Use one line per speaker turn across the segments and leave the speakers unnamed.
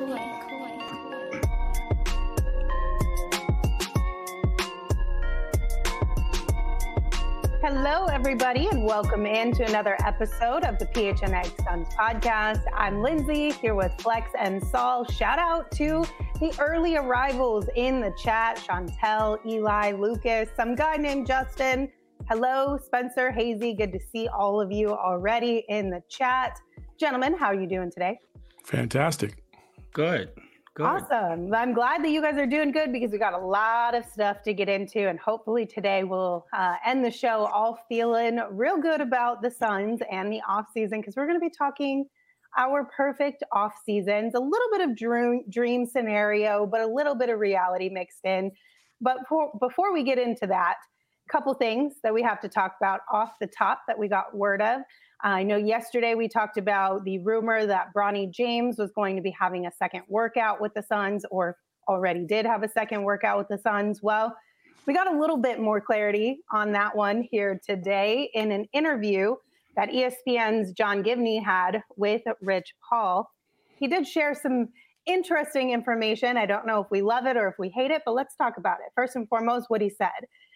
Hello, everybody, and welcome into another episode of the PHNX Suns podcast. I'm Lindsay here with Flex and Saul. Shout out to the early arrivals in the chat: Chantel, Eli, Lucas, some guy named Justin. Hello, Spencer, Hazy. Good to see all of you already in the chat. Gentlemen, how are you doing today?
Fantastic.
Good.
Awesome. I'm glad that you guys are doing good because we got a lot of stuff to get into, and hopefully today we'll end the show all feeling real good about the Suns and the off season, because we're going to be talking our perfect off seasons, a little bit of dream scenario, but a little bit of reality mixed in. But before we get into that, a couple things that we have to talk about off the top that we got word of. I know yesterday we talked about the rumor that Bronny James was going to be having a second workout with the Suns, or already did have a second workout with the Suns. Well, we got a little bit more clarity on that one here today in an interview that ESPN's John Givney had with Rich Paul. He did share some interesting information. I don't know if we love it or if we hate it, but let's talk about it. First and foremost, what he said.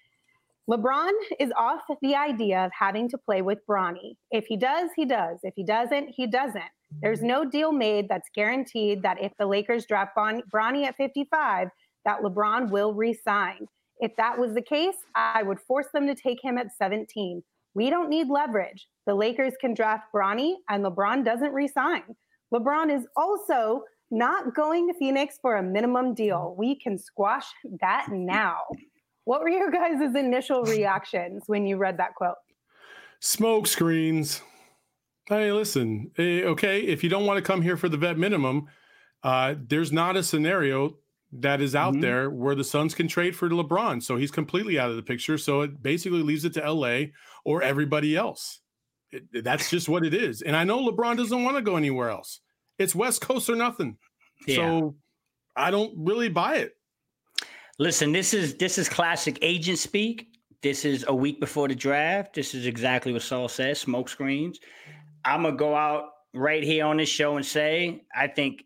LeBron is off the idea of having to play with Bronny. If he does, he does. If he doesn't, he doesn't. There's no deal made that's guaranteed that if the Lakers draft Bronny at 55, that LeBron will re-sign. If that was the case, I would force them to take him at 17. We don't need leverage. The Lakers can draft Bronny and LeBron doesn't re-sign. LeBron is also not going to Phoenix for a minimum deal. We can squash that now. What were your guys' initial reactions when you read that quote?
Smoke screens. Hey, listen, okay, if you don't want to come here for the vet minimum, there's not a scenario that is out there where the Suns can trade for LeBron. So he's completely out of the picture. So it basically leaves it to LA or everybody else. That's just what it is. And I know LeBron doesn't want to go anywhere else. It's West Coast or nothing. Yeah. So I don't really buy it.
Listen, this is classic agent speak. This is a week before the draft. This is exactly what Saul says, smoke screens. I'm going to go out right here on this show and say, I think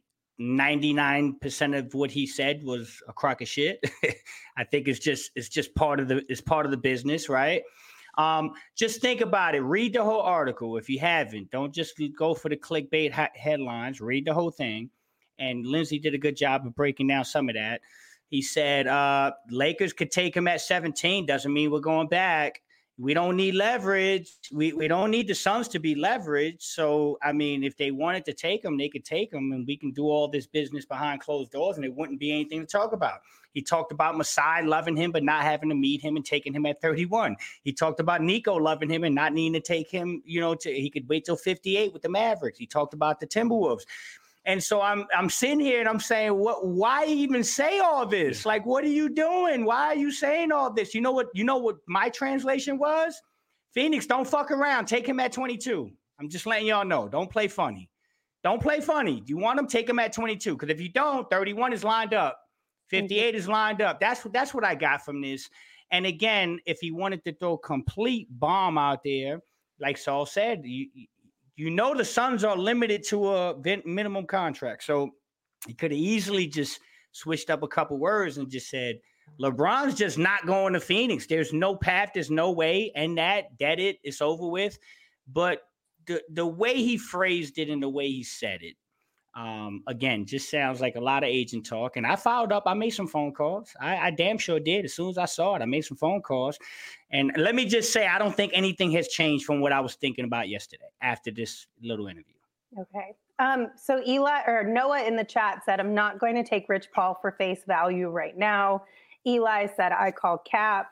99% of what he said was a crock of shit. I think it's just part of the business, right? Just think about it. Read the whole article if you haven't. Don't just go for the clickbait headlines. Read the whole thing. And Lindsay did a good job of breaking down some of that. He said, Lakers could take him at 17. Doesn't mean we're going back. We don't need leverage. We don't need the Suns to be leveraged. So, I mean, if they wanted to take him, they could take him, and we can do all this business behind closed doors, and it wouldn't be anything to talk about. He talked about Masai loving him, but not having to meet him and taking him at 31. He talked about Nico loving him and not needing to take him, he could wait till 58 with the Mavericks. He talked about the Timberwolves. And so I'm sitting here and I'm saying, why even say all this? Like, what are you doing? Why are you saying all this? You know what my translation was? Phoenix, don't fuck around. Take him at 22. I'm just letting y'all know. Don't play funny. Don't play funny. Do you want him? Take him at 22. Because if you don't, 31 is lined up. 58 is lined up. That's what I got from this. And again, if he wanted to throw a complete bomb out there, like Saul said, the Suns are limited to a minimum contract. So he could have easily just switched up a couple words and just said, LeBron's just not going to Phoenix. There's no path. There's no way. And it's over with. But the way he phrased it and the way he said it, again, just sounds like a lot of agent talk. And I followed up. I made some phone calls. I damn sure did. As soon as I saw it, I made some phone calls. And let me just say, I don't think anything has changed from what I was thinking about yesterday after this little interview.
Okay. So Noah in the chat said, I'm not going to take Rich Paul for face value right now. Eli said, I call cap.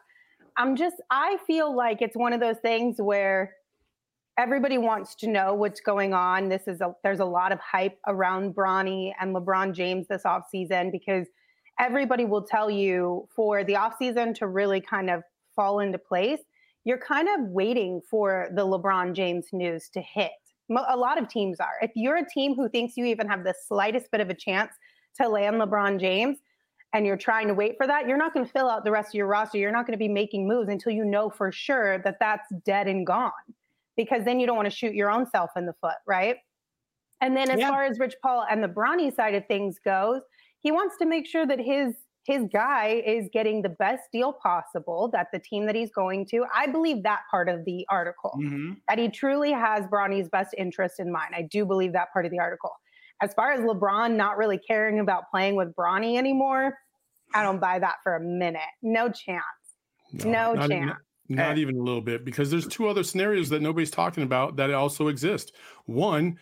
I feel like it's one of those things where everybody wants to know what's going on. There's a lot of hype around Bronny and LeBron James this offseason, because everybody will tell you for the offseason to really kind of fall into place, you're kind of waiting for the LeBron James news to hit. A lot of teams are. If you're a team who thinks you even have the slightest bit of a chance to land LeBron James and you're trying to wait for that, you're not going to fill out the rest of your roster. You're not going to be making moves until you know for sure that that's dead and gone, because then you don't want to shoot your own self in the foot, right? And then as far as Rich Paul and the Bronny side of things goes, he wants to make sure that his guy is getting the best deal possible, that the team that he's going to, I believe that part of the article, that he truly has Bronny's best interest in mind. I do believe that part of the article. As far as LeBron not really caring about playing with Bronny anymore, I don't buy that for a minute. No chance. No chance.
Not even a little bit, because there's two other scenarios that nobody's talking about that also exist. One,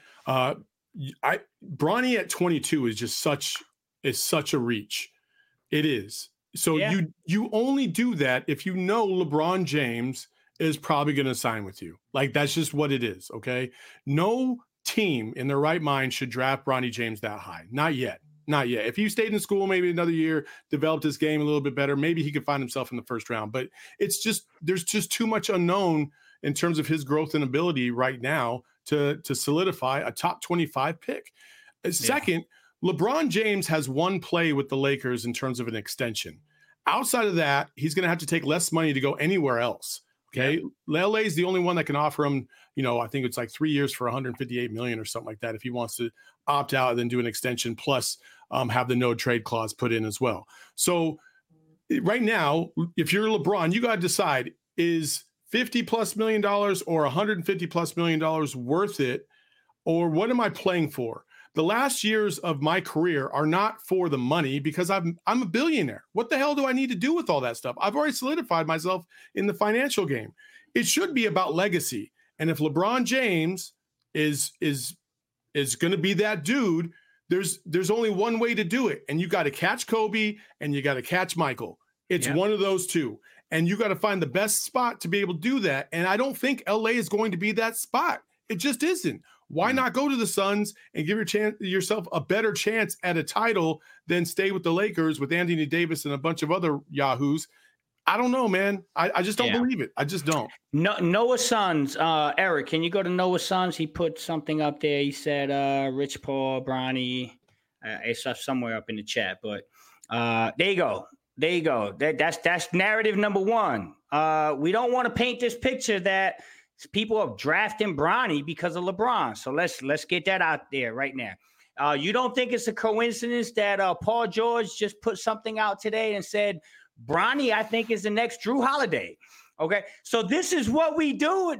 Bronny at 22 is just such a reach. It is. So you only do that if you know LeBron James is probably going to sign with you. Like, that's just what it is. Okay. No team in their right mind should draft Bronny James that high. Not yet. Not yet. If he stayed in school, maybe another year, developed his game a little bit better, maybe he could find himself in the first round. But it's just, there's just too much unknown in terms of his growth and ability right now to solidify a top 25 pick. Second, LeBron James has one play with the Lakers in terms of an extension. Outside of that, he's going to have to take less money to go anywhere else. Okay. LA is the only one that can offer him, I think it's like 3 years for $158 million or something like that, if he wants to opt out and then do an extension plus have the no trade clause put in as well. So right now, if you're LeBron, you got to decide, is $50+ million or $150+ million worth it? Or what am I playing for? The last years of my career are not for the money, because I'm a billionaire. What the hell do I need to do with all that stuff? I've already solidified myself in the financial game. It should be about legacy. And if LeBron James is going to be that dude, there's only one way to do it. And you got to catch Kobe and you got to catch Michael. It's one of those two. And you got to find the best spot to be able to do that. And I don't think LA is going to be that spot. It just isn't. Why not go to the Suns and give yourself a better chance at a title than stay with the Lakers with Anthony Davis and a bunch of other yahoos? I don't know, man. I just don't believe it. I just don't.
No, Noah Suns. Eric, can you go to Noah Suns? He put something up there. He said Rich Paul, Bronny. It's somewhere up in the chat. But there you go. There you go. That's narrative number one. We don't want to paint this picture that people are drafting Bronny because of LeBron. So let's get that out there right now. You don't think it's a coincidence that Paul George just put something out today and said, Bronny, I think, is the next Drew Holiday. Okay. So this is what we do.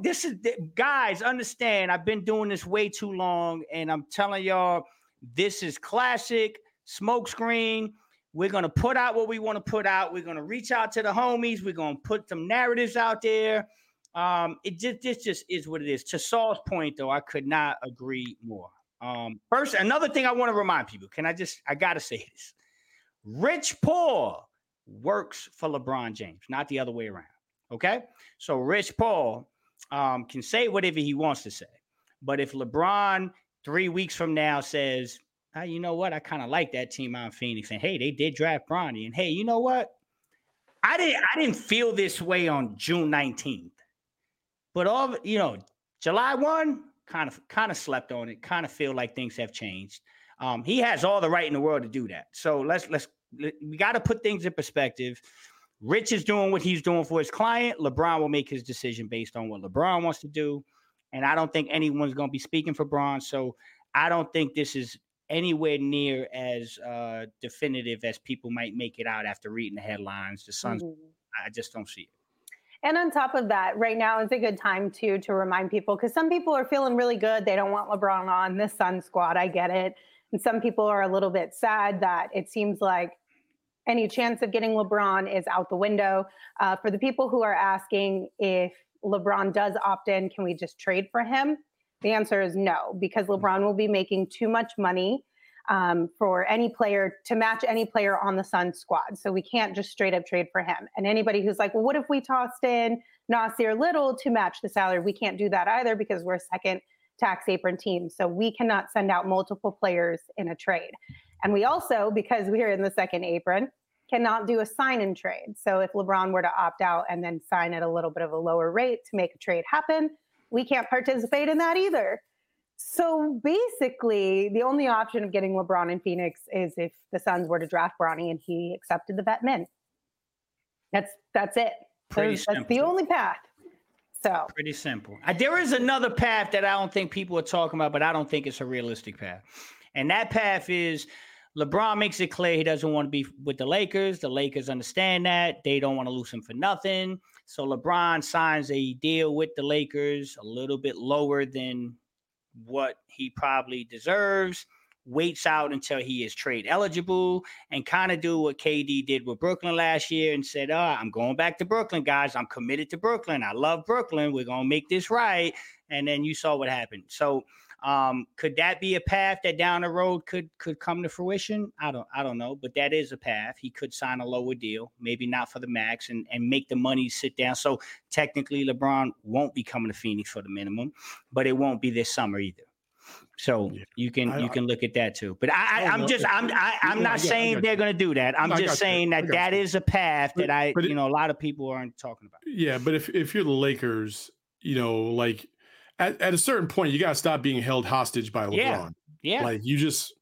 Guys, understand, I've been doing this way too long, and I'm telling y'all, this is classic smokescreen. We're going to put out what we want to put out. We're going to reach out to the homies. We're going to put some narratives out there. This just is what it is. To Saul's point, though, I could not agree more. First, another thing I want to remind people, I got to say this. Rich Paul works for LeBron James, not the other way around. Okay? So Rich Paul can say whatever he wants to say. But if LeBron 3 weeks from now says, you know what? I kind of like that team out in Phoenix. And hey, they did draft Bronny. And hey, you know what? I didn't feel this way on June 19th. But July 1, kind of slept on it, kind of feel like things have changed. He has all the right in the world to do that. So we got to put things in perspective. Rich is doing what he's doing for his client. LeBron will make his decision based on what LeBron wants to do. And I don't think anyone's going to be speaking for Bron. So I don't think this is anywhere near as definitive as people might make it out after reading the headlines. The Suns, I just don't see it.
And on top of that, right now is a good time to remind people, because some people are feeling really good. They don't want LeBron on this Sun squad. I get it. And some people are a little bit sad that it seems like any chance of getting LeBron is out the window. For the people who are asking if LeBron does opt in, can we just trade for him? The answer is no, because LeBron will be making too much money for any player to match any player on the Suns squad. So we can't just straight up trade for him. And anybody who's like, well, what if we tossed in Nasir Little to match the salary? We can't do that either, because we're a second tax apron team. So we cannot send out multiple players in a trade. And we also, because we're in the second apron, cannot do a sign and trade. So if LeBron were to opt out and then sign at a little bit of a lower rate to make a trade happen, we can't participate in that either. So basically, the only option of getting LeBron in Phoenix is if the Suns were to draft Bronny and he accepted the vet min. That's it. That's the only path. So
pretty simple. There is another path that I don't think people are talking about, but I don't think it's a realistic path. And that path is LeBron makes it clear he doesn't want to be with the Lakers. The Lakers understand that. They don't want to lose him for nothing. So LeBron signs a deal with the Lakers a little bit lower than what he probably deserves, waits out until he is trade eligible, and kind of do what KD did with Brooklyn last year and said, I'm going back to Brooklyn, guys. I'm committed to Brooklyn. I love Brooklyn. We're going to make this right. And then you saw what happened. So could that be a path that down the road could come to fruition? I don't know, but that is a path. He could sign a lower deal, maybe not for the max, and make the money sit down. So technically LeBron won't be coming to Phoenix for the minimum, but it won't be this summer either. So you can look at that too. But I'm not saying they're going to do that. I'm just saying that is a path that a lot of people aren't talking about.
Yeah, but if you're the Lakers, like at a certain point, you got to stop being held hostage by LeBron.
Yeah.
Like you just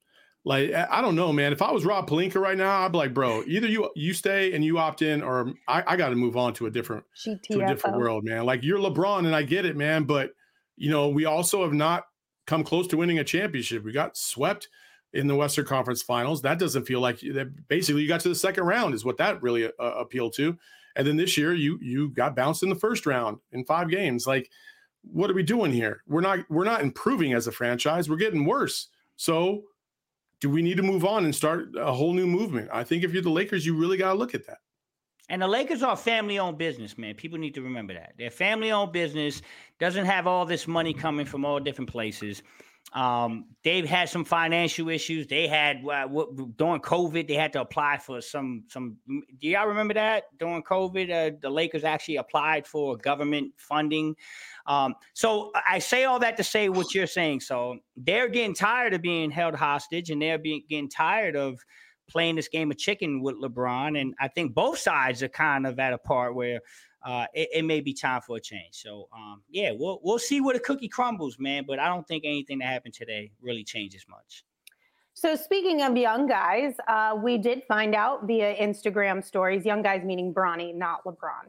I don't know, man. If I was Rob Pelinka right now, I'd be like, bro, either you stay and you opt in, or I got to move on to a different world, man. Like you're LeBron, and I get it, man. But we also have not come close to winning a championship. We got swept in the Western Conference Finals. That doesn't feel like that. Basically, you got to the second round is what that really appealed to. And then this year, you got bounced in the first round in 5 games. Like, what are we doing here? We're not improving as a franchise. We're getting worse. So, do we need to move on and start a whole new movement? I think if you're the Lakers, you really got to look at that.
And the Lakers are a family-owned business, man. People need to remember that. They're a family-owned business, doesn't have all this money coming from all different places. They've had some financial issues. They had during COVID, they had to apply for some. Do y'all remember that during COVID? The Lakers actually applied for government funding. So I say all that to say what you're saying. So they're getting tired of being held hostage, and they're getting tired of playing this game of chicken with LeBron. And I think both sides are kind of at a part where it may be time for a change. So, we'll see where the cookie crumbles, man. But I don't think anything that happened today really changes much.
So speaking of young guys, we did find out via Instagram stories, young guys meaning Bronny, not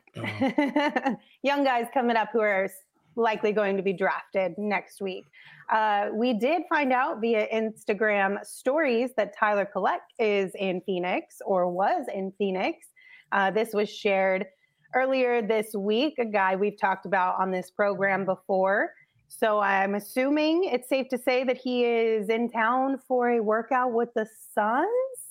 LeBron. Young guys coming up who are likely going to be drafted next week. We did find out via Instagram stories that Tyler Collette is in Phoenix, or was in Phoenix. This was shared earlier this week, a guy we've talked about on this program before. So I'm assuming it's safe to say that he is in town for a workout with the Suns.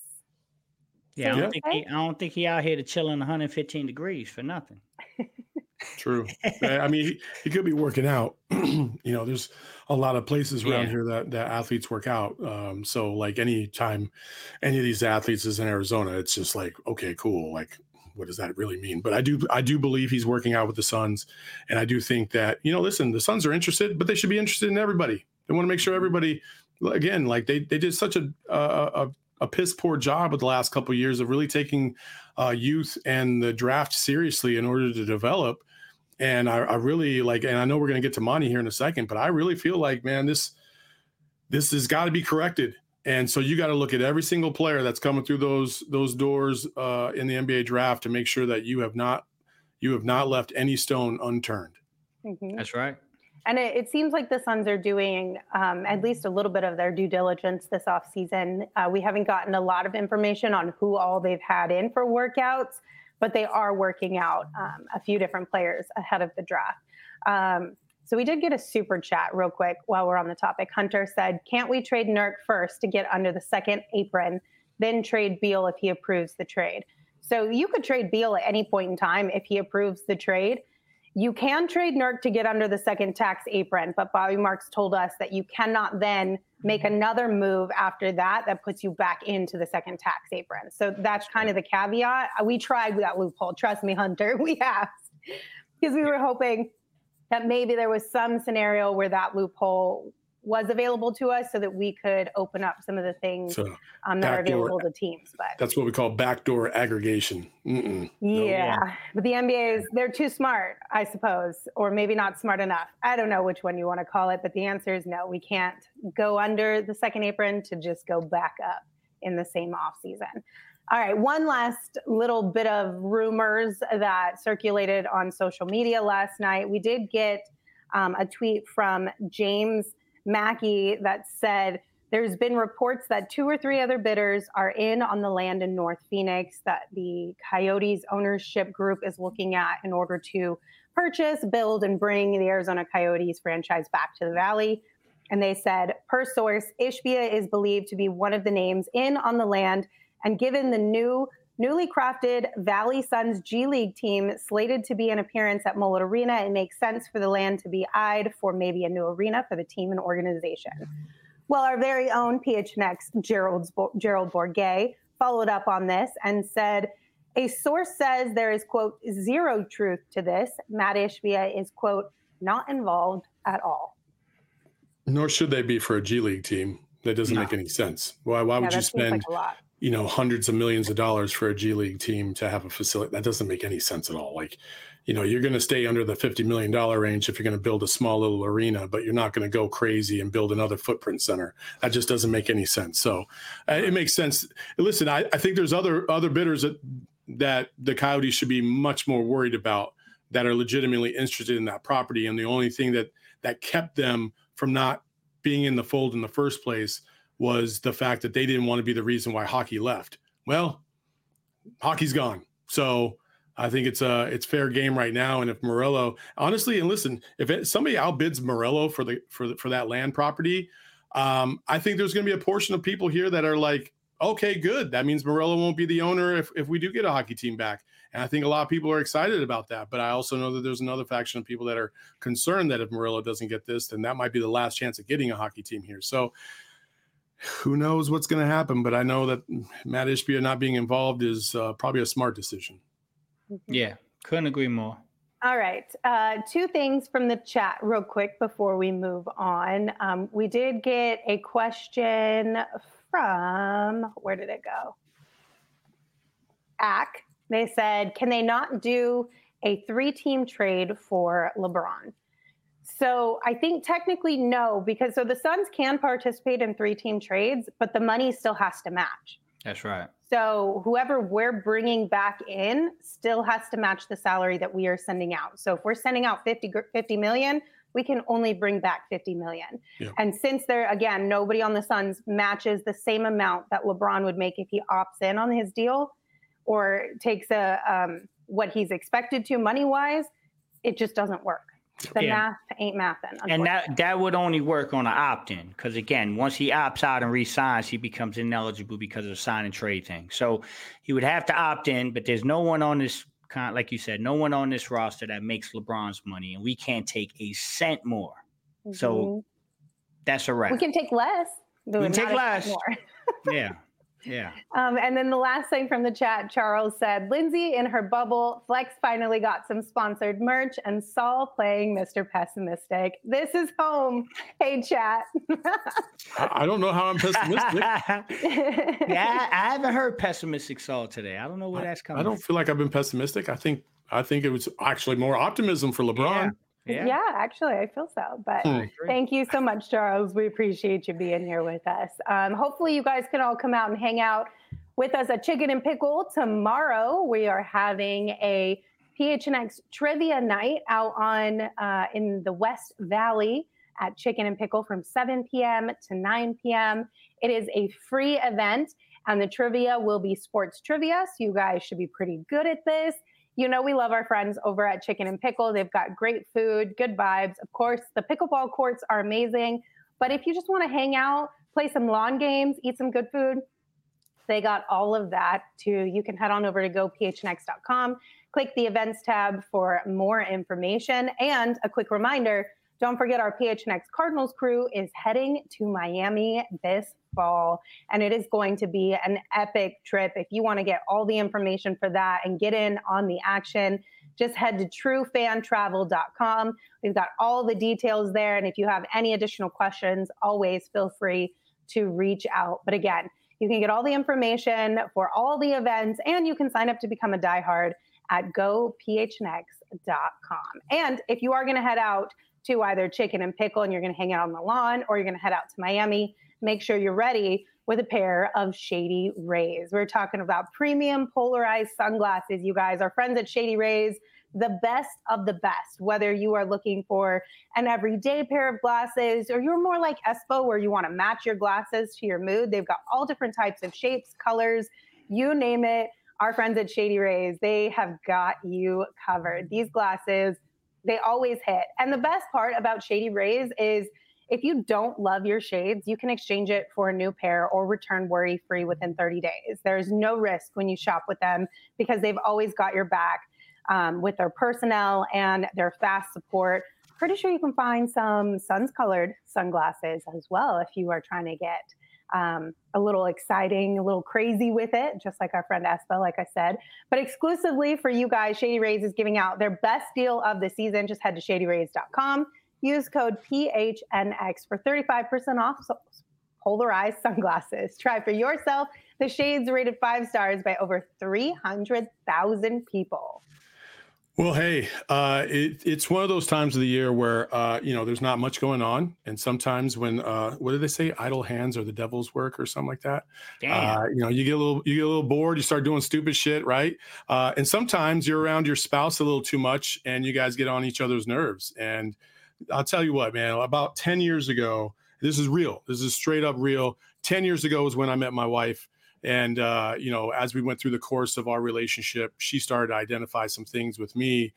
Yeah, I don't think he out here to chill in 115 degrees for nothing.
True. I mean, he could be working out. There's a lot of places around here that athletes work out. So like any time any of these athletes is in Arizona, it's just like, okay, cool. Like, what does that really mean? But I do believe he's working out with the Suns. And I do think that, listen, the Suns are interested, but they should be interested in everybody. They want to make sure everybody, again, like they did such a piss poor job with the last couple of years of really taking youth and the draft seriously in order to develop. And I really like, and I know we're going to get to Monty here in a second, but I really feel like, man, this has got to be corrected. And so you got to look at every single player that's coming through those doors in the NBA draft to make sure that you have not left any stone unturned.
Mm-hmm.
That's right.
And it seems like the Suns are doing at least a little bit of their due diligence this offseason. We haven't gotten a lot of information on who all they've had in for workouts, but they are working out a few different players ahead of the draft. So we did get a super chat real quick while we're on the topic. Hunter said, can't we trade Nurk first to get under the second apron, then trade Beal if he approves the trade? So you could trade Beal at any point in time if he approves the trade. You can trade Nurk to get under the second tax apron, but Bobby Marks told us that you cannot then make another move after that puts you back into the second tax apron. So that's kind of the caveat. We tried that loophole. Trust me, Hunter, we have. Because we were hoping that maybe there was some scenario where that loophole was available to us so that we could open up some of the things that are available to teams. But
that's what we call backdoor aggregation.
But the NBA they're too smart, I suppose, or maybe not smart enough. I don't know which one you want to call it, but the answer is no. We can't go under the second apron to just go back up in the same offseason. All right, one last little bit of rumors that circulated on social media last night. We did get a tweet from James Mackey that said there's been reports that 2 or 3 other bidders are in on the land in North Phoenix that the Coyotes ownership group is looking at in order to purchase, build, and bring the Arizona Coyotes franchise back to the Valley. And they said, per source, Ishbia is believed to be one of the names in on the land. And given the newly crafted Valley Suns G League team slated to be an appearance at Mullet Arena, it makes sense for the land to be eyed for maybe a new arena for the team and organization. Well, our very own PHNX Gerald Bourguet followed up on this and said, a source says there is, quote, zero truth to this. Matt Ishbia is, quote, not involved at all.
Nor should they be for a G League team. That doesn't make any sense. Why would you spend hundreds of millions of dollars for a G League team to have a facility? That doesn't make any sense at all. Like, you're going to stay under the $50 million range if you're going to build a small little arena, but you're not going to go crazy and build another footprint center. That just doesn't make any sense. So it makes sense. Listen, I think there's other bidders that the Coyotes should be much more worried about that are legitimately interested in that property. And the only thing that kept them from not being in the fold in the first place was the fact that they didn't want to be the reason why hockey left. Well, hockey's gone. So I think it's fair game right now. And if Morello, honestly, and listen, if somebody outbids Morello for that land property, I think there's going to be a portion of people here that are like, okay, good. That means Morello won't be the owner if we do get a hockey team back. And I think a lot of people are excited about that. But I also know that there's another faction of people that are concerned that if Morello doesn't get this, then that might be the last chance of getting a hockey team here. So who knows what's going to happen? But I know that Matt Ishbia not being involved is probably a smart decision.
Yeah, couldn't agree more.
All right. 2 things from the chat real quick before we move on. We did get a question from, where did it go? ACK. They said, can they not do a 3-team trade for LeBron? So I think technically no, because the Suns can participate in 3-team trades, but the money still has to match.
That's right.
So whoever we're bringing back in still has to match the salary that we are sending out. So if we're sending out 50 million, we can only bring back 50 million. Yeah. And since nobody on the Suns matches the same amount that LeBron would make if he opts in on his deal or takes what he's expected to money-wise, it just doesn't work. The math ain't mathin'.
And that would only work on an opt-in because, again, once he opts out and re-signs, he becomes ineligible because of the sign and trade thing. So he would have to opt in, but there's no one on this, like you said, no one on this roster that makes LeBron's money, and we can't take a cent more. Mm-hmm. So that's a wrap.
We can take less.
We can take less.
More.
Yeah. Yeah.
And then the last thing from the chat, Charles said, Lindsay in her bubble, Flex finally got some sponsored merch, and Saul playing Mr. Pessimistic. This is home. Hey, chat.
I don't know how I'm pessimistic.
Yeah, I haven't heard pessimistic Saul today. I don't know where that's coming from.
I don't feel like I've been pessimistic. I think it was actually more optimism for LeBron.
Yeah, actually, I feel so. But thank you so much, Charles. We appreciate you being here with us. Hopefully, you guys can all come out and hang out with us at Chicken and Pickle tomorrow. We are having a PHNX trivia night out on in the West Valley at Chicken and Pickle from 7 p.m. to 9 p.m. It is a free event, and the trivia will be sports trivia. So you guys should be pretty good at this. We love our friends over at Chicken and Pickle. They've got great food, good vibes. Of course, the pickleball courts are amazing. But if you just want to hang out, play some lawn games, eat some good food, they got all of that too. You can head on over to gophnx.com, click the events tab for more information. And a quick reminder, don't forget our PHNX Cardinals crew is heading to Miami this fall, and it is going to be an epic trip. If you want to get all the information for that and get in on the action, just head to truefantravel.com. We've got all the details there, and if you have any additional questions, always feel free to reach out. But again, you can get all the information for all the events, and you can sign up to become a diehard at gophnx.com. And if you are going to head out to either Chicken and Pickle and you're going to hang out on the lawn, or you're going to head out to Miami, make sure you're ready with a pair of Shady Rays. We're talking about premium polarized sunglasses, you guys. Our friends at Shady Rays, the best of the best, whether you are looking for an everyday pair of glasses or you're more like Espo where you want to match your glasses to your mood. They've got all different types of shapes, colors, you name it. Our friends at Shady Rays, they have got you covered. These glasses, they always hit. And the best part about Shady Rays is if you don't love your shades, you can exchange it for a new pair or return worry-free within 30 days. There's no risk when you shop with them because they've always got your back. With their personnel and their fast support. Pretty sure you can find some suns-colored sunglasses as well if you are trying to get a little exciting, a little crazy with it, just like our friend Espa, like I said. But exclusively for you guys, Shady Rays is giving out their best deal of the season. Just head to shadyrays.com. Use code PHNX for 35% off polarized sunglasses. Try for yourself the shades rated 5 stars by over 300,000 people.
Well, hey, it's one of those times of the year where, there's not much going on. And sometimes when, what do they say? Idle hands are the devil's work or something like that.
Damn.
You get a little bored, you start doing stupid shit. Right. And sometimes you're around your spouse a little too much and you guys get on each other's nerves. And I'll tell you what, man, about 10 years ago, this is real. This is straight up real. 10 years ago was when I met my wife. And, as we went through the course of our relationship, she started to identify some things with me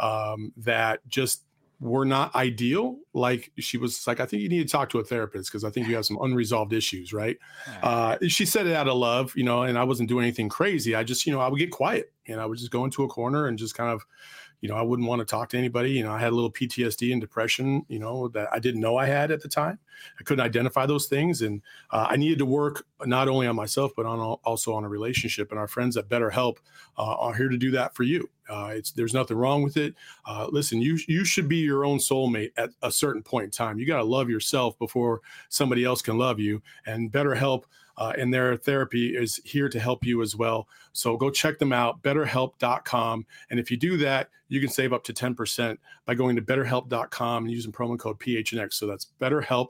that just were not ideal. Like she was like, I think you need to talk to a therapist because I think you have some unresolved issues, right? She said it out of love, and I wasn't doing anything crazy. I just, I would get quiet and I would just go into a corner and just kind of, I wouldn't want to talk to anybody. I had a little PTSD and depression, that I didn't know I had at the time. I couldn't identify those things. And I needed to work not only on myself, but also on a relationship. And our friends at BetterHelp are here to do that for you. There's nothing wrong with it. Listen, you should be your own soulmate at a certain point in time. You got to love yourself before somebody else can love you. And BetterHelp and their therapy is here to help you as well. So go check them out, betterhelp.com. And if you do that, you can save up to 10% by going to betterhelp.com and using promo code PHNX. So that's BetterHelp,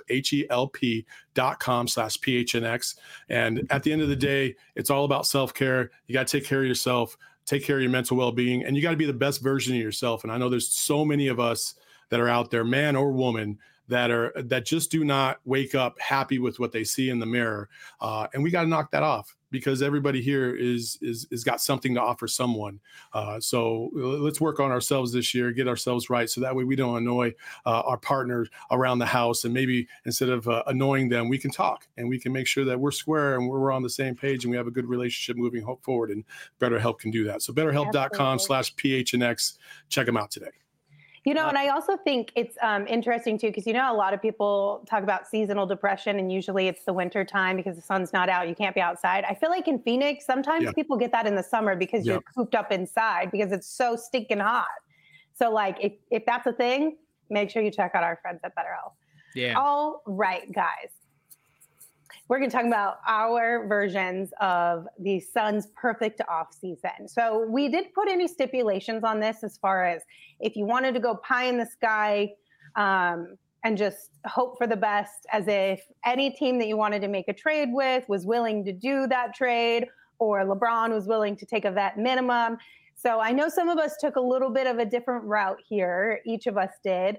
HELP.com/PHNX. And at the end of the day, it's all about self-care. You got to take care of yourself, take care of your mental well-being, and you got to be the best version of yourself. And I know there's so many of us that are out there, man or woman, that just do not wake up happy with what they see in the mirror. And we got to knock that off because everybody here is got something to offer someone. So let's work on ourselves this year, get ourselves right. So that way we don't annoy our partners around the house. And maybe instead of annoying them, we can talk and we can make sure that we're square and we're on the same page and we have a good relationship moving forward. And BetterHelp can do that. So betterhelp.com/PHNX. Check them out today.
And I also think it's interesting too, because a lot of people talk about seasonal depression and usually it's the winter time because the sun's not out. You can't be outside. I feel like in Phoenix, sometimes people get that in the summer because you're cooped up inside because it's so stinking hot. So like if that's a thing, make sure you check out our friends at BetterHelp.
Yeah.
All right, guys. We're going to talk about our versions of the Suns' perfect off season. So we did put any stipulations on this as far as if you wanted to go pie in the sky and just hope for the best, as if any team that you wanted to make a trade with was willing to do that trade, or LeBron was willing to take a vet minimum. So I know some of us took a little bit of a different route here. Each of us did.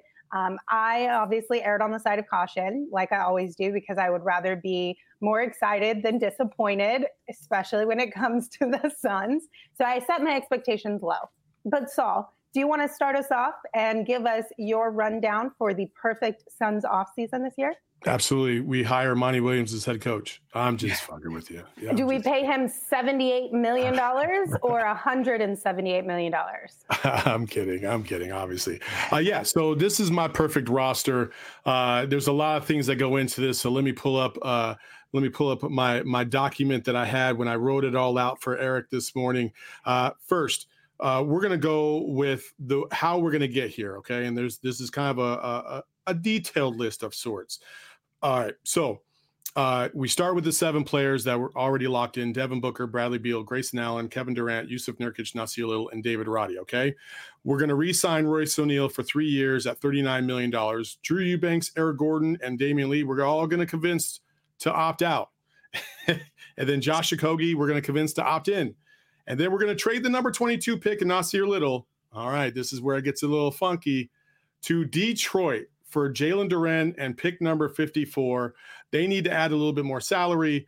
I obviously erred on the side of caution, like I always do, because I would rather be more excited than disappointed, especially when it comes to the Suns. So I set my expectations low. But Saul, do you want to start us off and give us your rundown for the perfect Suns offseason this year?
Absolutely. We hire Monty Williams as head coach. I'm just fucking with you. Yeah,
do we pay him $78 million or $178 million?
I'm kidding, obviously. So this is my perfect roster. There's a lot of things that go into this. So let me pull up my document that I had when I wrote it all out for Eric this morning. First, we're going to go with how we're going to get here. Okay. And this is kind of a detailed list of sorts. All right. So we start with the 7 players that were already locked in: Devin Booker, Bradley Beal, Grayson Allen, Kevin Durant, Yusuf Nurkic, Nasir Little, and David Roddy. Okay. We're going to re-sign Royce O'Neal for 3 years at $39 million. Drew Eubanks, Eric Gordon, and Damian Lee, we're all going to convince to opt out. And then Josh Okogie, we're going to convince to opt in. And then we're going to trade the number 22 pick and Nasir Little. All right, this is where it gets a little funky. To Detroit for Jalen Duren and pick number 54. They need to add a little bit more salary.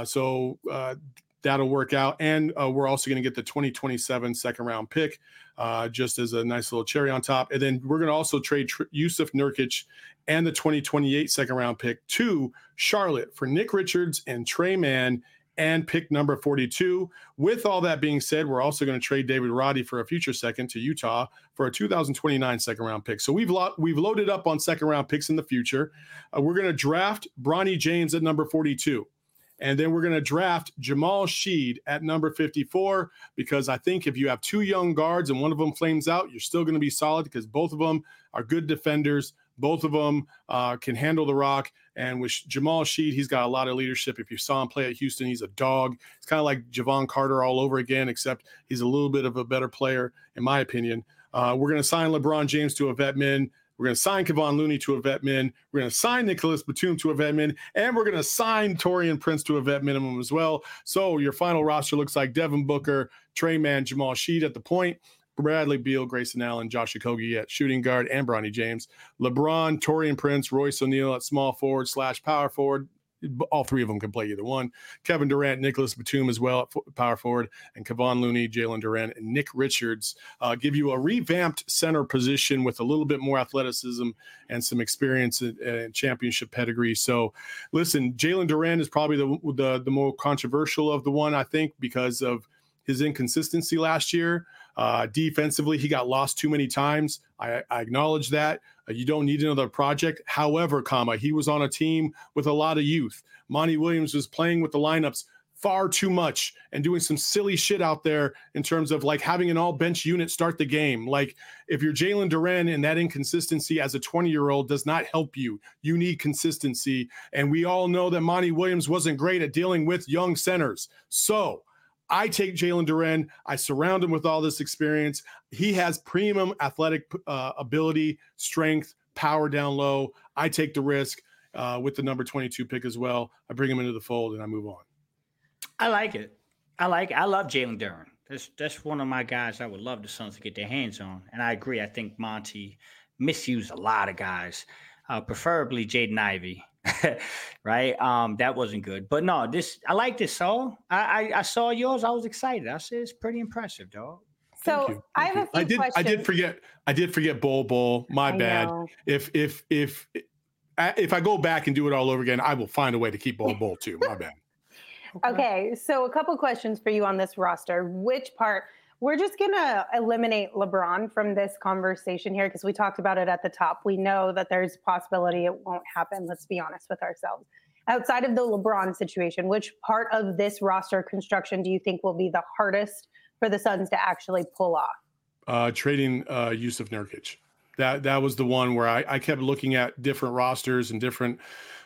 So that'll work out. And we're also going to get the 2027 second round pick just as a nice little cherry on top. And then we're going to also trade Yusuf Nurkic and the 2028 second round pick to Charlotte for Nick Richards and Trey Mann and pick number 42. With all that being said, we're also going to trade David Roddy for a future second to Utah for a 2029 second round pick. So we've loaded up on second round picks in the future. We're going to draft Bronny James at number 42. And then we're going to draft Jamal Sheed at number 54, because I think if you have two young guards and one of them flames out, you're still going to be solid because both of them are good defenders. Both of them can handle the rock. And with Jamal Sheed, he's got a lot of leadership. If you saw him play at Houston, he's a dog. It's kind of like Javon Carter all over again, except he's a little bit of a better player, in my opinion. We're going to sign LeBron James to a vet min. We're going to sign Kevon Looney to a vet min. We're going to sign Nicholas Batum to a vet min. And we're going to sign Taurean Prince to a vet minimum as well. So your final roster looks like Devin Booker, Trey Mann, Jamal Sheed at the point, Bradley Beal, Grayson Allen, Josh Okogie at shooting guard, and Bronny James. LeBron, Taurean Prince, Royce O'Neal at small forward / power forward. All three of them can play either one. Kevin Durant, Nicholas Batum as well at power forward, and Kevon Looney, Jalen Duren, and Nick Richards give you a revamped center position with a little bit more athleticism and some experience and championship pedigree. So, listen, Jalen Duren is probably the more controversial of the one, I think, because of his inconsistency last year. Defensively, he got lost too many times. I acknowledge that. You don't need another project. However, he was on a team with a lot of youth. Monty Williams was playing with the lineups far too much and doing some silly shit out there in terms of like having an all bench unit start the game. Like if you're Jalen Duren, and that inconsistency as a 20-year-old does not help you. You need consistency. And we all know that Monty Williams wasn't great at dealing with young centers. So I take Jalen Duren. I surround him with all this experience. He has premium athletic ability, strength, power down low. I take the risk with the number 22 pick as well. I bring him into the fold and I move on.
I like it. I love Jalen Duren. That's one of my guys I would love the Suns to get their hands on. And I agree. I think Monty misused a lot of guys, preferably Jaden Ivey. Right. That wasn't good. But no, I like this, Saul. I saw yours. I was excited. I said it's pretty impressive, dog.
So I have a few questions.
I did forget Bol. My bad. If I go back and do it all over again, I will find a way to keep Bol too. My bad.
Okay. So a couple questions for you on this roster. Which part? We're just going to eliminate LeBron from this conversation here because we talked about it at the top. We know that there's a possibility it won't happen. Let's be honest with ourselves. Outside of the LeBron situation, which part of this roster construction do you think will be the hardest for the Suns to actually pull off?
Trading Yusuf Nurkic. That was the one where I kept looking at different rosters and different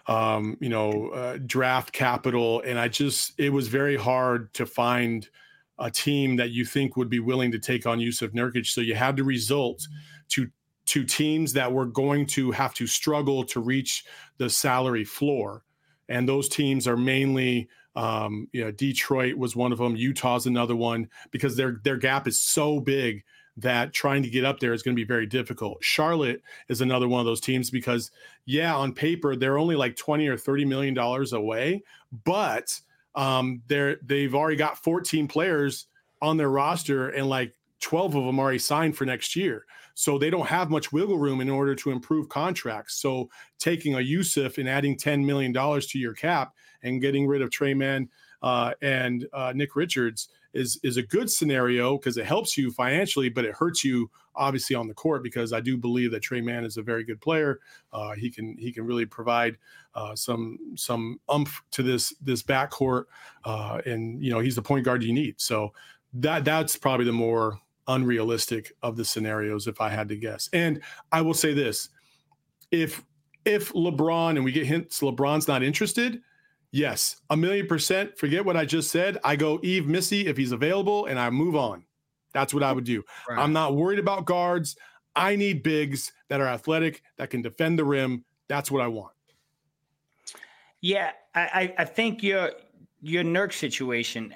draft capital. And it was very hard to find a team that you think would be willing to take on Yusuf Nurkic. So you had to result to teams that were going to have to struggle to reach the salary floor. And those teams are mainly, Detroit was one of them. Utah's another one, because their gap is so big that trying to get up there is going to be very difficult. Charlotte is another one of those teams because, on paper, they're only like $20 or $30 million away, but they've already got 14 players on their roster and like 12 of them already signed for next year. So they don't have much wiggle room in order to improve contracts. So taking a Yusuf and adding $10 million to your cap and getting rid of Trey Mann and Nick Richards is a good scenario because it helps you financially, but it hurts you obviously on the court, because I do believe that Trey Mann is a very good player. He can really provide some oomph to this backcourt, and he's the point guard you need. So that's probably the more unrealistic of the scenarios if I had to guess. And I will say this: if LeBron, and we get hints LeBron's not interested, yes, 1,000,000%. Forget what I just said. I go Yves Missy if he's available, and I move on. That's what I would do. Right. I'm not worried about guards. I need bigs that are athletic, that can defend the rim. That's what I want.
Yeah, I think your Nurk situation.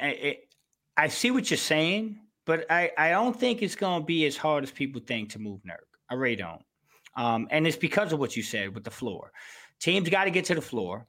I see what you're saying, but I don't think it's going to be as hard as people think to move Nurk. I really don't. And it's because of what you said with the floor. Teams got to get to the floor.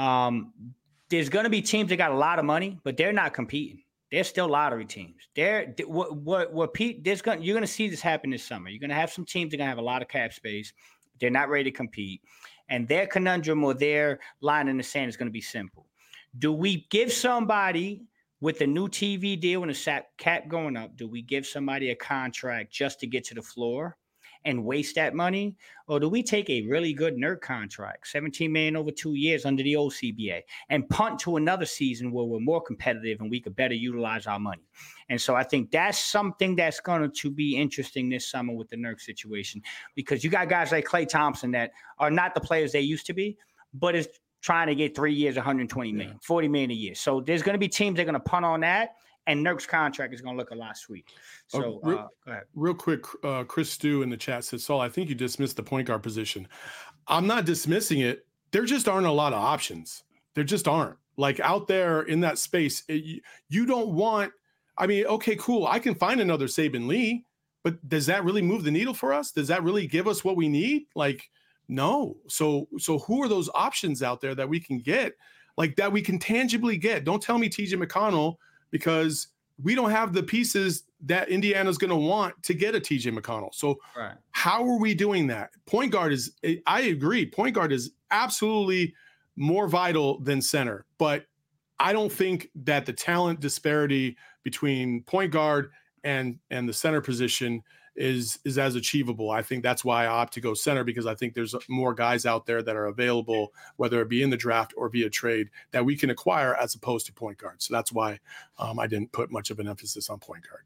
There's going to be teams that got a lot of money, but they're not competing. They're still lottery teams. You're going to see this happen this summer. You're going to have some teams that are going to have a lot of cap space. They're not ready to compete. And their conundrum or their line in the sand is going to be simple. Do we give somebody with a new TV deal and a cap going up, do we give somebody a contract just to get to the floor and waste that money? Or do we take a really good Nurk contract, $17 million over 2 years under the old CBA, and punt to another season where we're more competitive and we could better utilize our money? And so I think that's something that's going to be interesting this summer with the Nurk situation, because you got guys like Klay Thompson that are not the players they used to be, but is trying to get 3 years, 120 million, 40 million a year. So there's going to be teams that are going to punt on that, and Nurk's contract is going to look a lot sweet. So go ahead.
Real quick, Chris Stew in the chat says, Saul, I think you dismissed the point guard position. I'm not dismissing it. There just aren't a lot of options. There just aren't. Like out there in that space, you don't want – I mean, okay, cool. I can find another Saben Lee, but does that really move the needle for us? Does that really give us what we need? Like, no. So who are those options out there that we can get, like that we can tangibly get? Don't tell me TJ McConnell, because we don't have the pieces that Indiana's going to want to get a TJ McConnell. So How are we doing that? Point guard is, I agree, point guard is absolutely more vital than center, but I don't think that the talent disparity between point guard and the center position is as achievable. I think that's why I opt to go center, because I think there's more guys out there that are available, whether it be in the draft or via trade, that we can acquire as opposed to point guard. So that's why I didn't put much of an emphasis on point guard.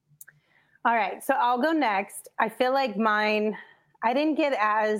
All right, so I'll go next. I feel like mine, I didn't get as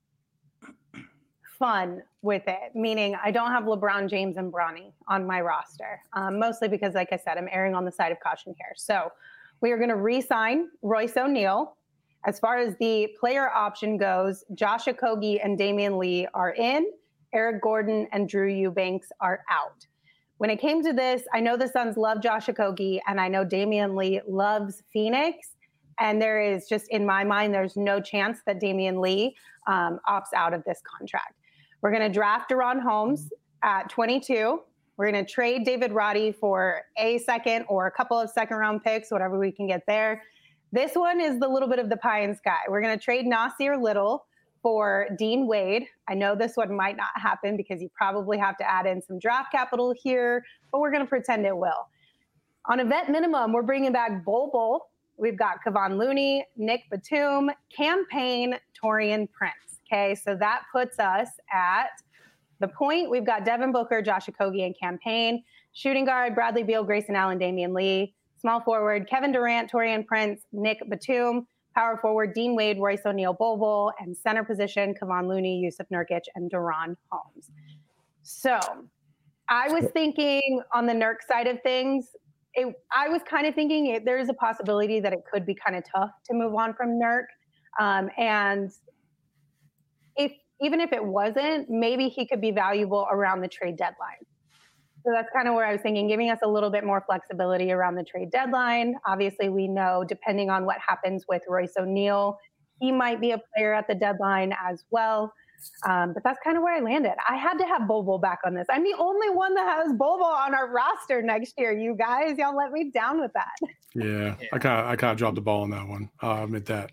fun with it, meaning I don't have LeBron James and Bronny on my roster, mostly because, like I said, I'm erring on the side of caution here. So we are going to re-sign Royce O'Neal. As far as the player option goes, Josh Okogie and Damian Lee are in. Eric Gordon and Drew Eubanks are out. When it came to this, I know the Suns love Josh Okogie, and I know Damian Lee loves Phoenix. And there is just, in my mind, there's no chance that Damian Lee opts out of this contract. We're going to draft Deron Holmes at 22. We're going to trade David Roddy for a second or a couple of second-round picks, whatever we can get there. This one is the little bit of the pie in sky. We're going to trade Nasir Little for Dean Wade. I know this one might not happen because you probably have to add in some draft capital here, but we're going to pretend it will. On a vet minimum, we're bringing back Bol Bol. We've got Kevon Looney, Nick Batum, Cam Payne, Taurean Prince. Okay, so that puts us at the point. We've got Devin Booker, Josh Okogie, and Cam Payne. Shooting guard, Bradley Beal, Grayson Allen, Damian Lee. Small forward, Kevin Durant, Taurean Prince, Nick Batum. Power forward, Dean Wade, Royce O'Neal, Bol Bol. And center position, Kevon Looney, Jusuf Nurkic, and Deron Holmes. So I was thinking on the Nurk side of things, I was kind of thinking there's a possibility that it could be kind of tough to move on from Nurk. And even if it wasn't, maybe he could be valuable around the trade deadline. So that's kind of where I was thinking, giving us a little bit more flexibility around the trade deadline. Obviously, we know, depending on what happens with Royce O'Neal, he might be a player at the deadline as well. But that's kind of where I landed. I had to have Bol Bol back on this. I'm the only one that has Bol Bol on our roster next year. You guys, y'all let me down with that.
Yeah. I kind of dropped the ball on that one. I'll admit that.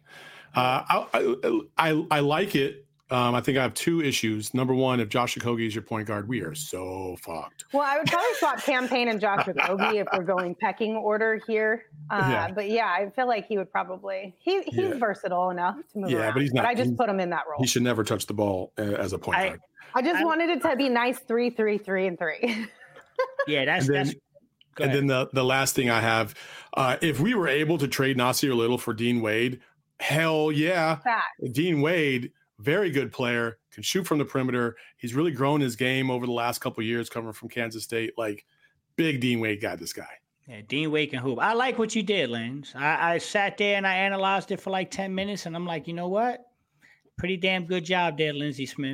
I like it. I think I have two issues. Number one, if Josh Okogie is your point guard, we are so fucked.
Well, I would probably swap Cam Payne and Josh Okogie if we're going pecking order here. But yeah, I feel like he would probably he's versatile enough to move around. But he's not. But I just put him in that role.
He should never touch the ball as a point guard.
I just wanted it to be nice 3-3-3-3.
Yeah, that's.
And then the last thing I have, if we were able to trade Nasir Little for Dean Wade, hell yeah, Dean Wade. Very good player, can shoot from the perimeter. He's really grown his game over the last couple of years coming from Kansas State. Like, big Dean Wade guy, this guy.
Yeah, Dean Wade can hoop. I like what you did, Lance. I sat there and I analyzed it for like 10 minutes, and I'm like, you know what? Pretty damn good job there, Lindsey Smith.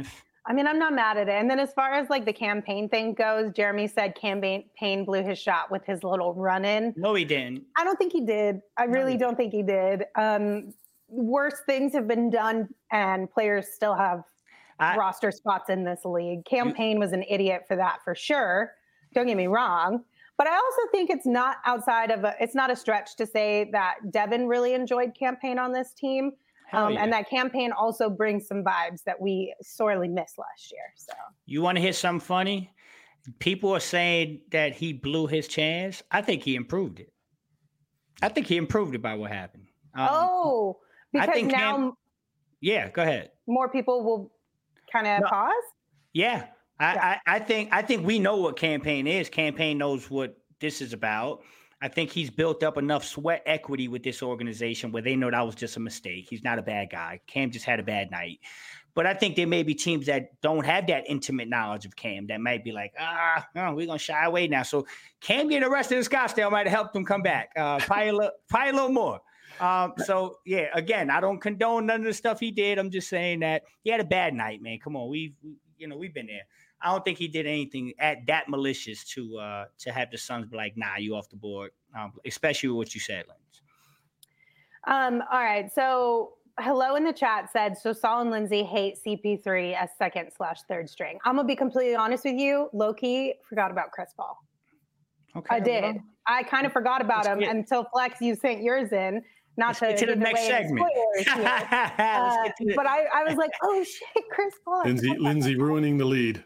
I mean, I'm not mad at it. And then as far as like the campaign thing goes, Jeremy said campaign blew his shot with his little run-in.
No, he didn't.
I don't think he did. I really don't think he did. Worse things have been done, and players still have roster spots in this league. Campaign was an idiot for that, for sure. Don't get me wrong. But I also think it's not it's not a stretch to say that Devin really enjoyed campaign on this team. And that campaign also brings some vibes that we sorely missed last year. So
you want to hear something funny? People are saying that he blew his chance. I think he improved it. I think he improved it by what happened.
Because now,
yeah, go ahead.
More people will kind of pause.
Yeah. I think we know what campaign is. Campaign knows what this is about. I think he's built up enough sweat equity with this organization where they know that was just a mistake. He's not a bad guy. Cam just had a bad night. But I think there may be teams that don't have that intimate knowledge of Cam that might be like, no, we're going to shy away now. So Cam getting arrested in Scottsdale might have helped him come back. Probably a little more. So, yeah, again, I don't condone none of the stuff he did. I'm just saying that he had a bad night, man. Come on. We've been there. I don't think he did anything that malicious to have the Suns be like, nah, you off the board, especially with what you said, Lance.
All right. So hello in the chat said, so Saul and Lindsay hate CP3 as second/third string. I'm going to be completely honest with you. Low-key, forgot about Chris Paul.
Okay.
I did. Well, I kind of forgot about him until Flex, you sent yours in. Not to
get to the next segment.
But I was like, oh shit, Chris Paul.
Lindsay ruining the lead.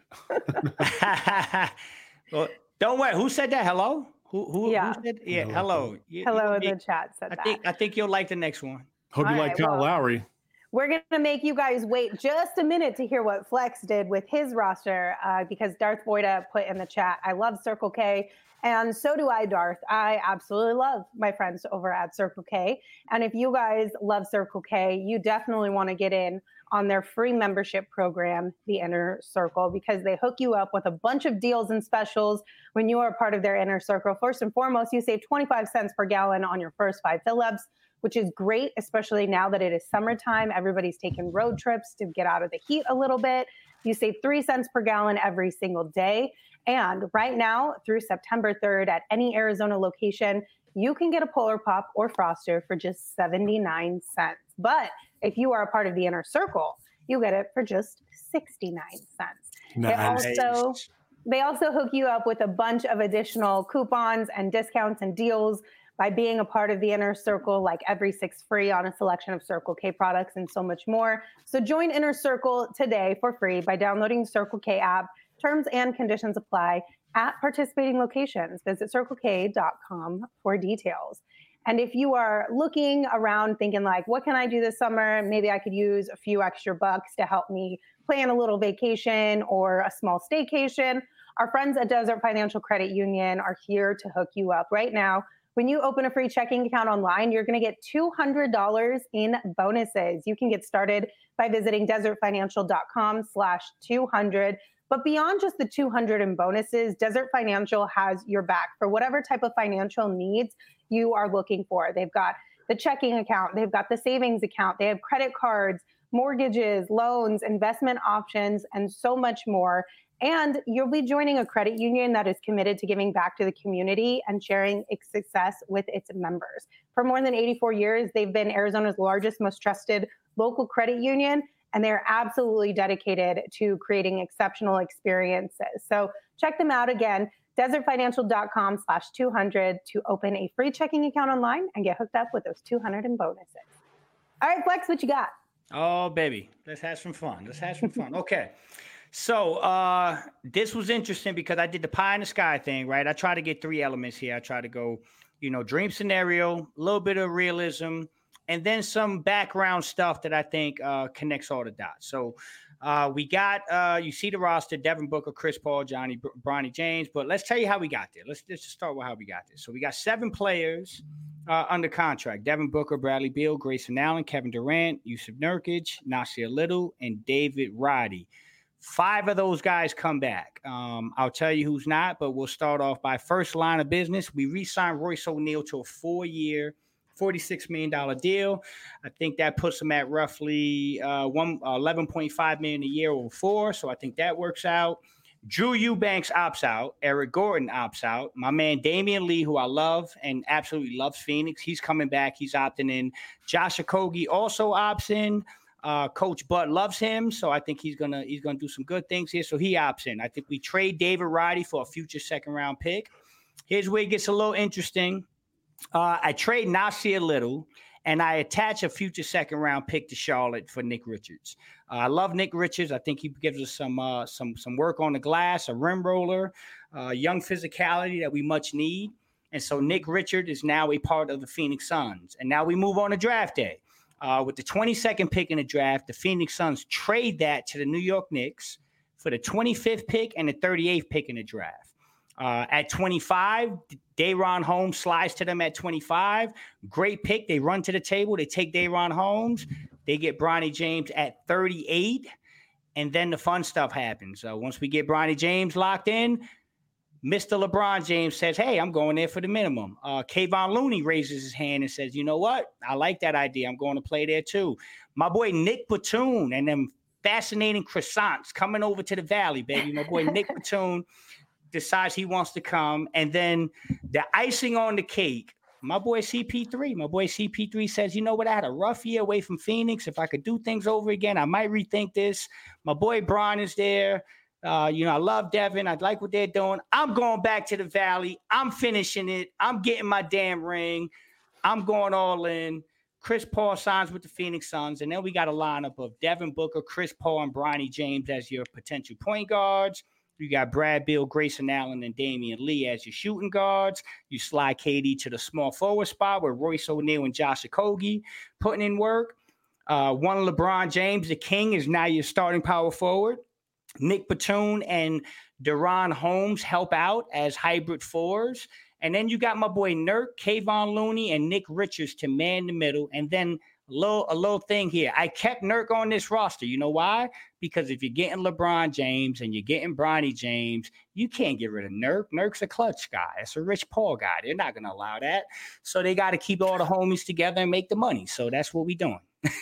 Well, don't worry. Who said that? Hello? Who said? Yeah, hello.
Hello in the chat said that.
I think you'll like the next one.
Hope you like Kyle Lowry.
We're going to make you guys wait just a minute to hear what Flex did with his roster because Darth Boyda put in the chat, I love Circle K. And so do I, Darth. I absolutely love my friends over at Circle K. And if you guys love Circle K, you definitely want to get in on their free membership program, The Inner Circle, because they hook you up with a bunch of deals and specials when you are part of their Inner Circle. First and foremost, you save 25 cents per gallon on your first 5 fill-ups, which is great, especially now that it is summertime. Everybody's taking road trips to get out of the heat a little bit. You save 3 cents per gallon every single day. And right now, through September 3rd, at any Arizona location, you can get a Polar Pop or Froster for just 79 cents. But if you are a part of the Inner Circle, you get it for just 69 cents.
Nice.
They also hook you up with a bunch of additional coupons and discounts and deals by being a part of the Inner Circle, like every 6 free on a selection of Circle K products and so much more. So join Inner Circle today for free by downloading the Circle K app. Terms and conditions apply at participating locations. Visit CircleK.com for details. And if you are looking around thinking like, what can I do this summer? Maybe I could use a few extra bucks to help me plan a little vacation or a small staycation. Our friends at Desert Financial Credit Union are here to hook you up right now. When you open a free checking account online, you're going to get $200 in bonuses. You can get started by visiting desertfinancial.com/200. But beyond just the 200 in bonuses, Desert Financial has your back for whatever type of financial needs you are looking for. They've got the checking account, they've got the savings account, they have credit cards, mortgages, loans, investment options, and so much more. And you'll be joining a credit union that is committed to giving back to the community and sharing its success with its members. For more than 84 years, they've been Arizona's largest, most trusted local credit union, and they're absolutely dedicated to creating exceptional experiences. So check them out again, desertfinancial.com/200 to open a free checking account online and get hooked up with those 200 in bonuses. All right, Flex, what you got?
Oh, baby, let's have some fun. Okay. So this was interesting because I did the pie in the sky thing, right? I try to get 3 elements here. I try to go, dream scenario, a little bit of realism, and then some background stuff that I think connects all the dots. So we got, you see the roster, Devin Booker, Chris Paul, Bronny James, but let's tell you how we got there. Let's just start with how we got there. So we got 7 players under contract: Devin Booker, Bradley Beal, Grayson Allen, Kevin Durant, Yusuf Nurkic, Nasir Little, and David Roddy. 5 of those guys come back. I'll tell you who's not, but we'll start off by first line of business. We re-signed Royce O'Neal to a 4-year, $46 million deal. I think that puts him at roughly $11.5 million a year over 4. So I think that works out. Drew Eubanks opts out. Eric Gordon opts out. My man Damian Lee, who I love and absolutely loves Phoenix, he's coming back. He's opting in. Josh Okogie also opts in. Coach Bud loves him, so I think he's gonna do some good things here. So he opts in. I think we trade David Roddy for a future second-round pick. Here's where it gets a little interesting. I trade Nasir Little, and I attach a future second-round pick to Charlotte for Nick Richards. I love Nick Richards. I think he gives us some work on the glass, a rim roller, young physicality that we much need. And so Nick Richards is now a part of the Phoenix Suns. And now we move on to draft day. With the 22nd pick in the draft, the Phoenix Suns trade that to the New York Knicks for the 25th pick and the 38th pick in the draft. At 25, Day'Ron Holmes slides to them at 25. Great pick. They run to the table. They take Day'Ron Holmes. They get Bronny James at 38. And then the fun stuff happens. Once we get Bronny James locked in, Mr. LeBron James says, hey, I'm going there for the minimum. Kayvon Looney raises his hand and says, you know what? I like that idea. I'm going to play there too. My boy Nick Batum and them fascinating croissants coming over to the Valley, baby. My boy Nick Batum decides he wants to come. And then the icing on the cake, my boy CP3 says, you know what? I had a rough year away from Phoenix. If I could do things over again, I might rethink this. My boy Bron is there. I love Devin. I like what they're doing. I'm going back to the Valley. I'm finishing it. I'm getting my damn ring. I'm going all in. Chris Paul signs with the Phoenix Suns. And then we got a lineup of Devin Booker, Chris Paul, and Bronny James as your potential point guards. You got Brad Beal, Grayson Allen, and Damian Lee as your shooting guards. You slide KD to the small forward spot with Royce O'Neal and Josh Okogie putting in work. One LeBron James, the king, is now your starting power forward. Nick Batum and Day'Ron Holmes help out as hybrid fours. And then you got my boy Nurk, Kayvon Looney, and Nick Richards to man the middle. And then a little thing here. I kept Nurk on this roster. You know why? Because if you're getting LeBron James and you're getting Bronny James, you can't get rid of Nurk. Nurk's a clutch guy. It's a Rich Paul guy. They're not going to allow that. So they got to keep all the homies together and make the money. So that's what we're doing.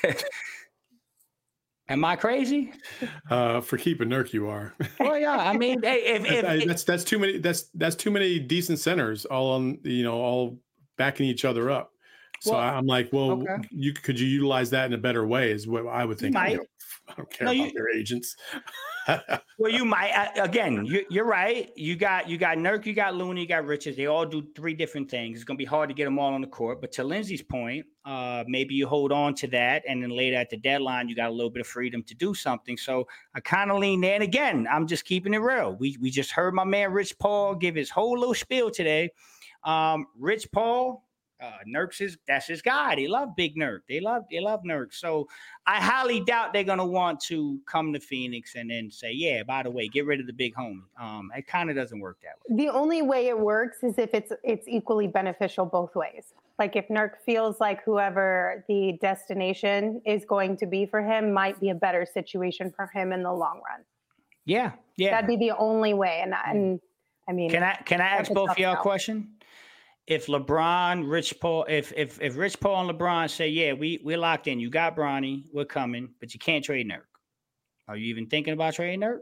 Am I crazy?
For keeping Nurk, you are.
Well, yeah. I mean,
that's too many. That's too many decent centers all on, all backing each other up. So I'm like, well, okay. Could you utilize that in a better way? Is what I would think. I don't care about their agents.
Well, you might. Again, you're right. You got Nurk, you got Looney, you got Richards. They all do 3 different things. It's going to be hard to get them all on the court. But to Lindsay's point, maybe you hold on to that, and then later at the deadline, you got a little bit of freedom to do something. So I kind of lean there. And again, I'm just keeping it real. We just heard my man Rich Paul give his whole little spiel today. Rich Paul. That's his guy. They love Big Nurk. They love Nurk. So I highly doubt they're gonna want to come to Phoenix and then say, yeah, by the way, get rid of the big homie. It kind of doesn't work that way.
The only way it works is if it's equally beneficial both ways. Like if Nurk feels like whoever the destination is going to be for him might be a better situation for him in the long run.
Yeah.
That'd be the only way. And I mean,
can I ask both of y'all a question? If LeBron, Rich Paul, if Rich Paul and LeBron say, yeah, we're locked in, you got Bronny, we're coming, but you can't trade Nurk. Are you even thinking about trading Nurk?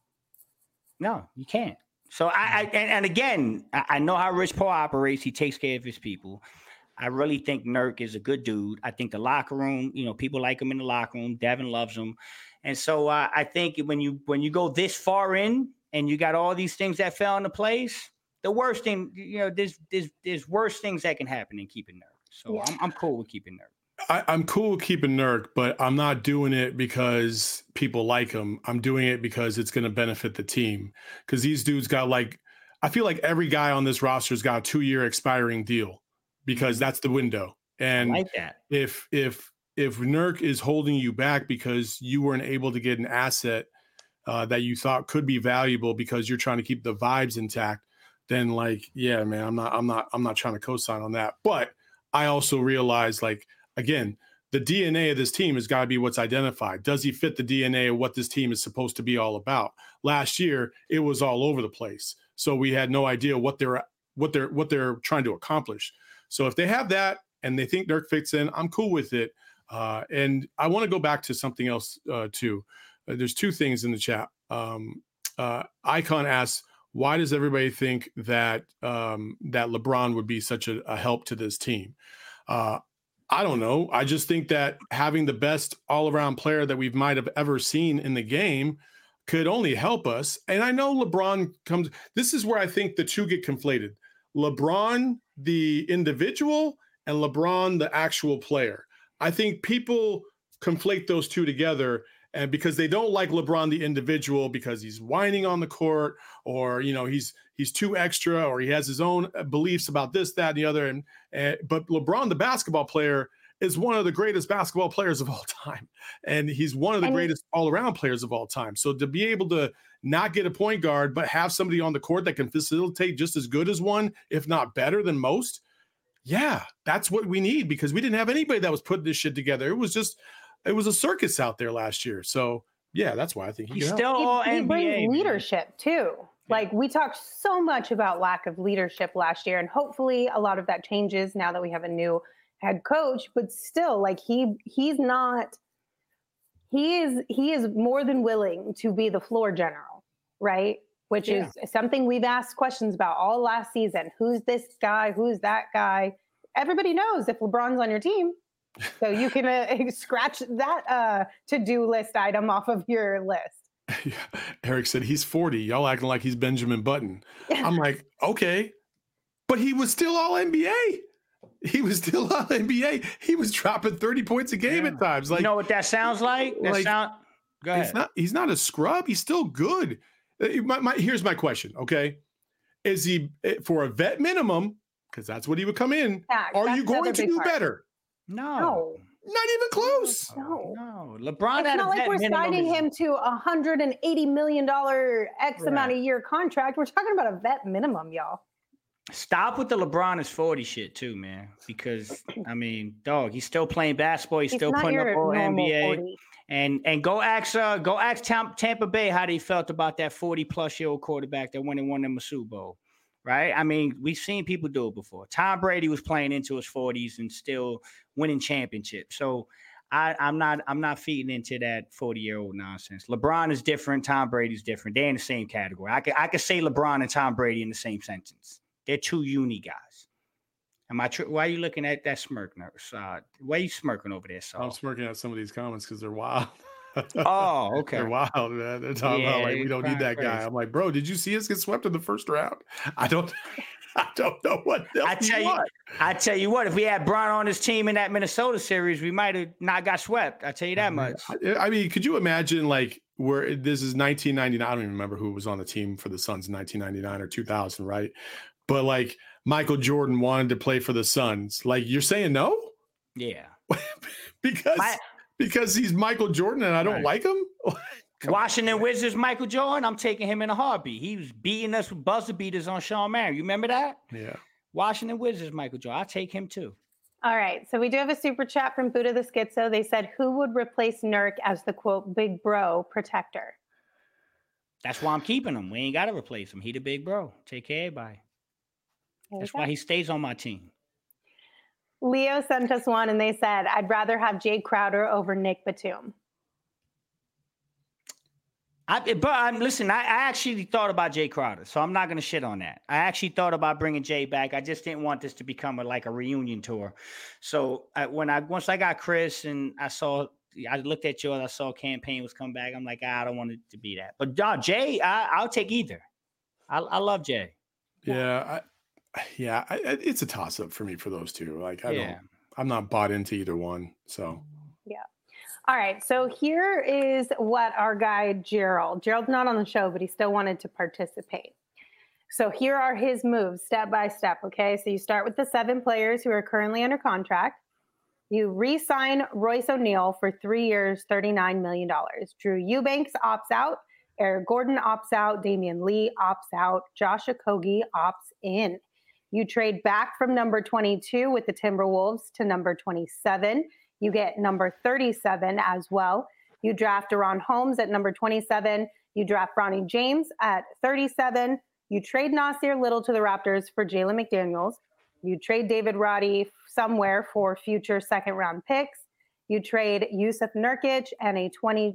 No, you can't. So and again, I know how Rich Paul operates. He takes care of his people. I really think Nurk is a good dude. I think the locker room, people like him in the locker room. Devin loves him. And so I think when you go this far in and you got all these things that fell into place, the worst thing, there's worse things that can happen than keeping Nurk. So yeah. I'm cool with keeping Nurk.
I'm cool with keeping Nurk, but I'm not doing it because people like him. I'm doing it because it's going to benefit the team. Because these dudes got I feel like every guy on this roster's got a 2-year expiring deal because that's the window. And
I like that.
If Nurk is holding you back because you weren't able to get an asset that you thought could be valuable because you're trying to keep the vibes intact, then yeah, man, I'm not trying to co-sign on that. But I also realize, again, the DNA of this team has got to be what's identified. Does he fit the DNA of what this team is supposed to be all about? Last year, it was all over the place. So we had no idea what they're trying to accomplish. So if they have that, and they think Nurk fits in, I'm cool with it. And I want to go back to something else too. There's two things in the chat. Icon asks, why does everybody think that that LeBron would be such a help to this team? I don't know. I just think that having the best all-around player that we might have ever seen in the game could only help us. And I know LeBron comes. This is where I think the two get conflated. LeBron, the individual, and LeBron, the actual player. I think people conflate those two together, and because they don't like LeBron, the individual, because he's whining on the court, or he's too extra, or he has his own beliefs about this, that, and the other. But LeBron, the basketball player, is one of the greatest basketball players of all time, and he's one of the greatest all-around players of all time. So to be able to not get a point guard, but have somebody on the court that can facilitate just as good as one, if not better than most, yeah, that's what we need, because we didn't have anybody that was putting this shit together. It was a circus out there last year. So yeah, that's why I think
he's still all NBA.
He brings leadership too. Like, we talked so much about lack of leadership last year, and hopefully a lot of that changes now that we have a new head coach. But still, like, he is more than willing to be the floor general, right? Which is something we've asked questions about all last season. Who's this guy? Who's that guy? Everybody knows if LeBron's on your team. So you can scratch that to-do list item off of your list.
Yeah. Eric said he's 40. Y'all acting like he's Benjamin Button. I'm like, okay. But he was still all NBA. He was still all NBA. He was dropping 30 points a game at times. Like,
you know what that sounds like? Go ahead.
He's not a scrub. He's still good. Here's my question, okay? Is he, for a vet minimum, because that's what he would come in, are you going to do better?
No.
Not even close.
No. LeBron,
it's not like we're signing him to $180 million X amount of year contract. We're talking about a vet minimum, y'all.
Stop with the LeBron is 40 shit too, man. Because I mean, dog, he's still playing basketball. He's still putting up all NBA. 40. And go ask Tampa Bay how they felt about that 40-plus-year-old quarterback that went and won them a Super Bowl. Right? I mean, we've seen people do it before. Tom Brady was playing into his 40s and still winning championships. So I'm not feeding into that 40-year-old nonsense. LeBron is different. Tom Brady's different. They're in the same category. I could say LeBron and Tom Brady in the same sentence. They're two uni guys. Why are you looking at that smirk, nurse? Why are you smirking over there, Saul?
I'm smirking at some of these comments because they're wild.
Oh, okay.
They're wild, man. They're talking about like, we don't need that guy. I'm like, bro, did you see us get swept in the first round? I don't know what
I tell you what, if we had Bron on his team in that Minnesota series, we might have not got swept. I tell you that much.
I mean, could you imagine like where this is 1999? I don't even remember who was on the team for the Suns in 1999 or 2000, right? But like Michael Jordan wanted to play for the Suns. Like, you're saying no?
Yeah.
Because he's Michael Jordan and I don't like him?
Washington Wizards, Michael Jordan, I'm taking him in a heartbeat. He was beating us with buzzer beaters on Sean Marion. You remember that?
Yeah.
Washington Wizards, Michael Jordan. I'll take him too.
All right. So we do have a super chat from Buddha the Schizo. They said, who would replace Nurk as the, quote, big bro protector?
That's why I'm keeping him. We ain't got to replace him. He the big bro. Take care of everybody. That's why he stays on my team.
Leo sent us one and they said, I'd rather have Jay Crowder over Nick Batum.
Listen, I actually thought about Jay Crowder, so I'm not going to shit on that. I actually thought about bringing Jay back. I just didn't want this to become a reunion tour. So once I got Chris and I looked at you and I saw campaign was coming back, I'm like, I don't want it to be that. But Jay, I'll take either. I love Jay.
Yeah, it's a toss up for me for those two. Like, I'm not bought into either one. So
yeah. All right. So here is what our guy Gerald's not on the show, but he still wanted to participate. So here are his moves step by step. Okay. So you start with the 7 players who are currently under contract. You re-sign Royce O'Neal for 3 years, $39 million. Drew Eubanks opts out. Eric Gordon opts out. Damian Lee opts out. Josh Okogie opts in. You trade back from number 22 with the Timberwolves to number 27. You get number 37 as well. You draft Deron Holmes at number 27. You draft Bronny James at 37. You trade Nasir Little to the Raptors for Jalen McDaniels. You trade David Roddy somewhere for future second-round picks. You trade Yusuf Nurkic and the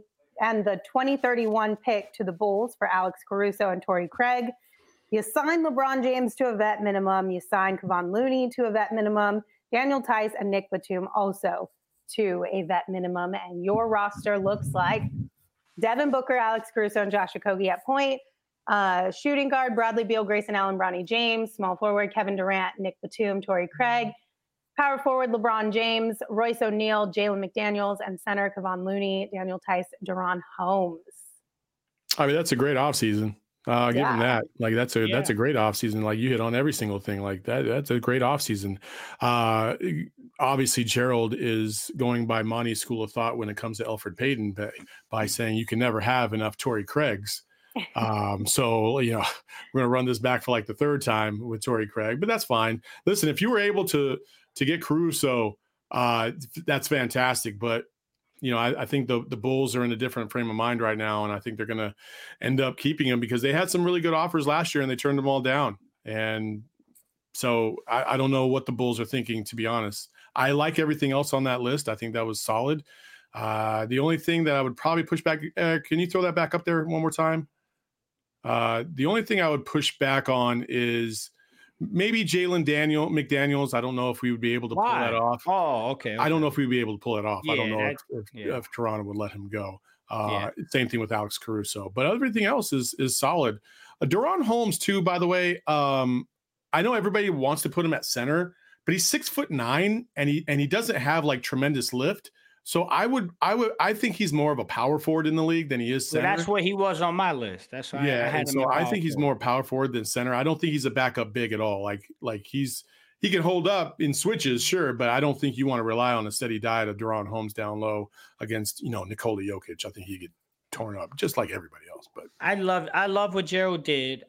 2031 pick to the Bulls for Alex Caruso and Torrey Craig. You sign LeBron James to a vet minimum. You sign Kevon Looney to a vet minimum. Daniel Tice and Nick Batum also to a vet minimum. And your roster looks like Devin Booker, Alex Caruso, and Josh Okogie at point. Shooting guard, Bradley Beal, Grayson Allen, Bronny James. Small forward, Kevin Durant, Nick Batum, Torrey Craig. Power forward, LeBron James, Royce O'Neal, Jalen McDaniels, and center, Kevon Looney, Daniel Tice, De'Ron Holmes.
I mean, that's a great offseason. Give him that. Like that's a great offseason. Like you hit on every single thing like that. That's a great offseason. Obviously, Gerald is going by Monty's school of thought when it comes to Elfrid Payton by saying you can never have enough Torrey Craigs. So, we're going to run this back for like the third time with Torrey Craig, but that's fine. Listen, if you were able to get Caruso, that's fantastic. But, I think the Bulls are in a different frame of mind right now. And I think they're going to end up keeping him because they had some really good offers last year and they turned them all down. And so I don't know what the Bulls are thinking, to be honest. I like everything else on that list. I think that was solid. The only thing that I would probably push back, can you throw that back up there one more time? The only thing I would push back on is maybe Jalen McDaniels. I don't know if we would be able to pull that off.
Oh, okay.
I don't know if we'd be able to pull it off. I don't know if Toronto would let him go. Same thing with Alex Caruso. But everything else is solid. De'Ron Holmes, too, by the way. I know everybody wants to put him at center, but he's 6'9", and he doesn't have like tremendous lift. So I think he's more of a power forward in the league than he is center.
Well, that's what he was on my list. That's why I had him.
So I think he's more power forward than center. I don't think he's a backup big at all. Like he can hold up in switches, sure, but I don't think you want to rely on a steady diet of De'Ron Holmes down low against Nikola Jokic. I think he get torn up just like everybody else. But
I love what Gerald did.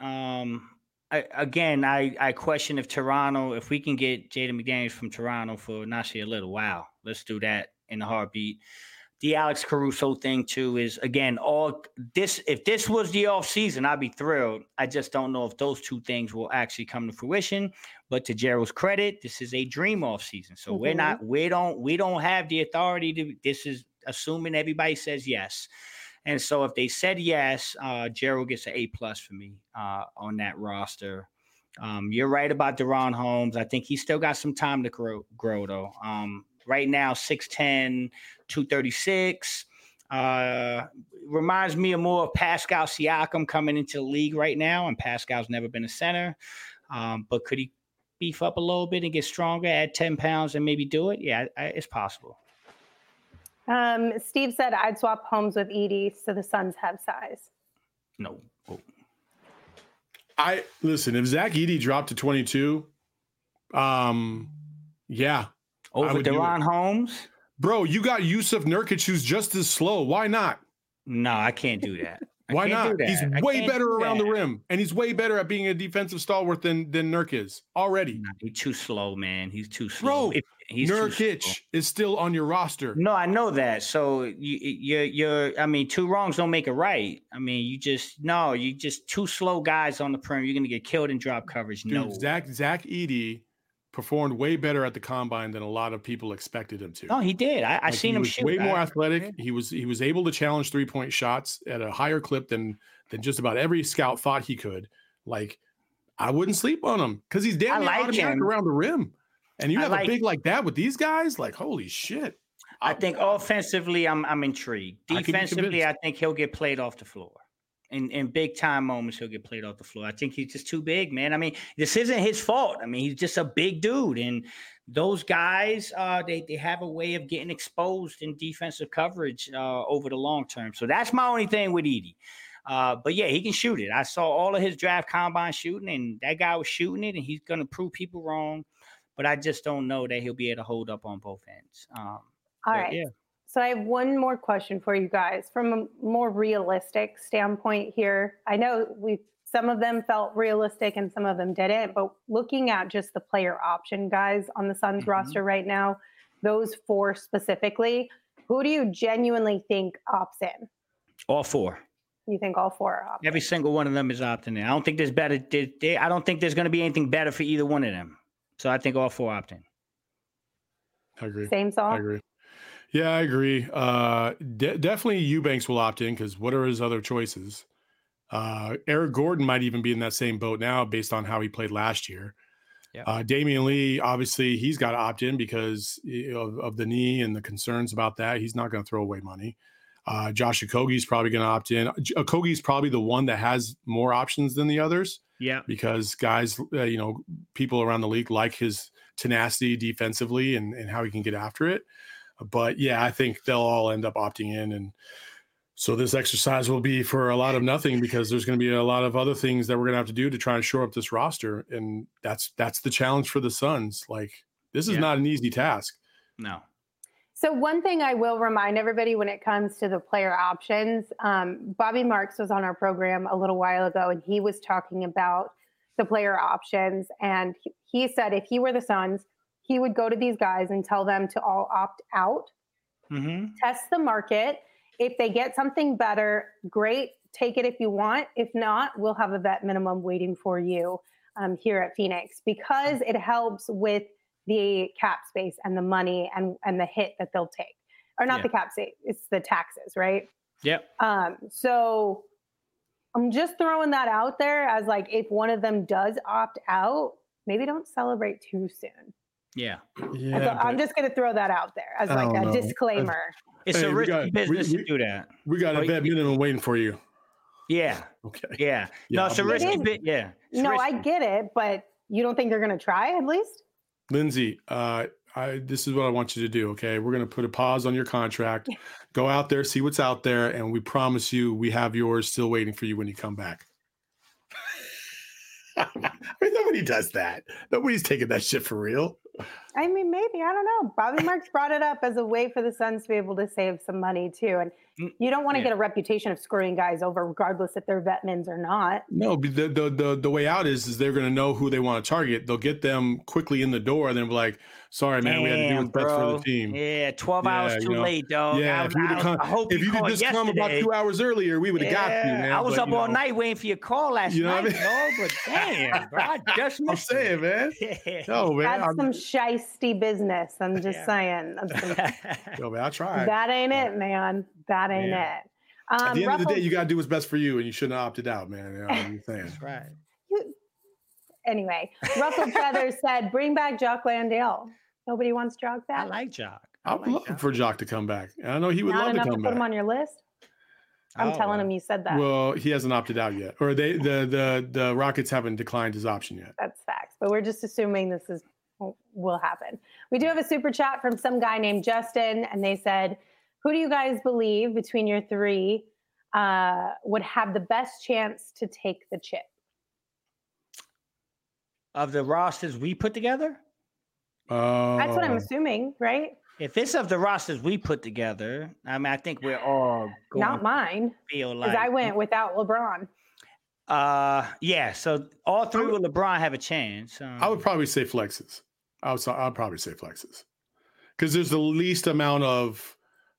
I question if we can get Jaden McDaniels from Toronto for Nasir Little. Wow, let's do that in a heartbeat. The Alex Caruso thing too is again all this. If this was the off season, I'd be thrilled. I just don't know if those two things will actually come to fruition. But to Gerald's credit, this is a dream off season, so we don't have the authority to. This is assuming everybody says yes, and so if they said yes, Gerald gets an A+ for me on that roster. You're right about De'Ron Holmes. I think he's still got some time to grow though. Right now, 6'10", 236. Reminds me more of Pascal Siakam coming into the league right now, and Pascal's never been a center. But could he beef up a little bit and get stronger, add 10 pounds, and maybe do it? Yeah, it's possible.
Steve said I'd swap Holmes with Edey so the Suns have size.
No. Oh.
Listen, if Zach Edey dropped to 22, yeah.
Over De'Ron Holmes?
Bro, you got Yusuf Nurkic, who's just as slow. Why not?
No, I can't do that.
Why not? He's way better around the rim, and he's way better at being a defensive stalwart than Nurk is already.
No, he's too slow, man. He's too slow.
Bro, Nurkic is still on your roster.
No, I know that. So you're. I mean, two wrongs don't make a right. I mean, you just two slow guys on the perimeter. You're gonna get killed in drop coverage.
Dude, no, Zach Edey performed way better at the combine than a lot of people expected him to.
No, he did. I seen him shoot.
Way more athletic. He was able to challenge 3-point shots at a higher clip than just about every scout thought he could. Like, I wouldn't sleep on him because he's damn near automatic around the rim. And you have a big like that with these guys, like holy shit.
I think offensively, I'm intrigued. Defensively, I think he'll get played off the floor. In big time moments, he'll get played off the floor. I think he's just too big, man. I mean, this isn't his fault. I mean, he's just a big dude. And those guys, they have a way of getting exposed in defensive coverage over the long term. So that's my only thing with Edey. But yeah, he can shoot it. I saw all of his draft combine shooting, and that guy was shooting it, and he's going to prove people wrong. But I just don't know that he'll be able to hold up on both ends.
All right. Yeah. So I have one more question for you guys from a more realistic standpoint here. I know some of them felt realistic and some of them didn't, but looking at just the player option guys on the Suns roster right now, those four specifically, who do you genuinely think opts in?
All four.
You think all four are opting?
Every single one of them is opting in. I don't think there's better. I don't think there's going to be anything better for either one of them. So I think all four opt in.
I agree.
Same Saul?
I agree. Yeah, I agree. Definitely Eubanks will opt in because what are his other choices? Eric Gordon might even be in that same boat now based on how he played last year.
Yep.
Damian Lee, obviously, he's got to opt in because of the knee and the concerns about that. He's not going to throw away money. Josh Okogie's probably going to opt in. Okogie's probably the one that has more options than the others.
Yeah.
Because guys, people around the league like his tenacity defensively and how he can get after it. But yeah, I think they'll all end up opting in. And so this exercise will be for a lot of nothing because there's going to be a lot of other things that we're going to have to do to try and shore up this roster. And that's the challenge for the Suns. Like, this is not an easy task.
No.
So one thing I will remind everybody when it comes to the player options, Bobby Marks was on our program a little while ago, and he was talking about the player options. And he said if he were the Suns, he would go to these guys and tell them to all opt out, test the market. If they get something better, great, take it if you want. If not, we'll have a vet minimum waiting for you here at Phoenix, because it helps with the cap space and the money and the hit that they'll take. Or not the cap space, it's the taxes, right?
Yep.
So I'm just throwing that out there as like, if one of them does opt out, maybe don't celebrate too soon.
Yeah.
I'm just going to throw that out there as like a disclaimer.
It's a risky business to do that.
We got a vet minimum waiting for you.
Yeah.
Okay.
Yeah. No, it's a risky bit. Yeah.
No, I get it, but you don't think they're going to try at least?
Lindsay, this is what I want you to do, okay? We're going to put a pause on your contract. Go out there, see what's out there, and we promise you we have yours still waiting for you when you come back. I mean, nobody does that. Nobody's taking that shit for real.
I mean, maybe. I don't know. Bobby Marks brought it up as a way for the Suns to be able to save some money, too. And you don't want to get a reputation of screwing guys over, regardless if they're vetmans or not.
No, but the way out is they're going to know who they want to target. They'll get them quickly in the door, and then be like, sorry, man, we had to do what's best for the team.
Yeah, 12 hours too late, dog.
Yeah, if you did just come about 2 hours earlier, we would have got you, man.
I was up all night waiting for your call last night, dog. But damn, bro, I just missed
I'm saying, man. No, man.
That's some shisty business. I'm just saying.
Yo, man, I tried.
That ain't it, man. That ain't it.
At the end of the day, you got to do what's best for you, and you shouldn't have opted out, man. You know what I'm saying?
That's right.
Anyway, Russell Feathers said, bring back Jock Landale. Nobody wants Jock back?
I like Jock.
I'm looking for Jock to come back. And I know he would love to come back.
Put him on your list? I'm telling him you said that.
Well, he hasn't opted out yet. Or the Rockets haven't declined his option yet.
That's facts. But we're just assuming this will happen. We do have a super chat from some guy named Justin, and they said, who do you guys believe between your three would have the best chance to take the chip?
Of the rosters we put together?
That's what I'm assuming, right?
If it's of the rosters we put together, I mean, I think we're all going
not mine.
Feel like
because I went without LeBron.
Yeah. So all three with LeBron have a chance.
I would probably say flexes. I'd probably say flexes because there's the least amount of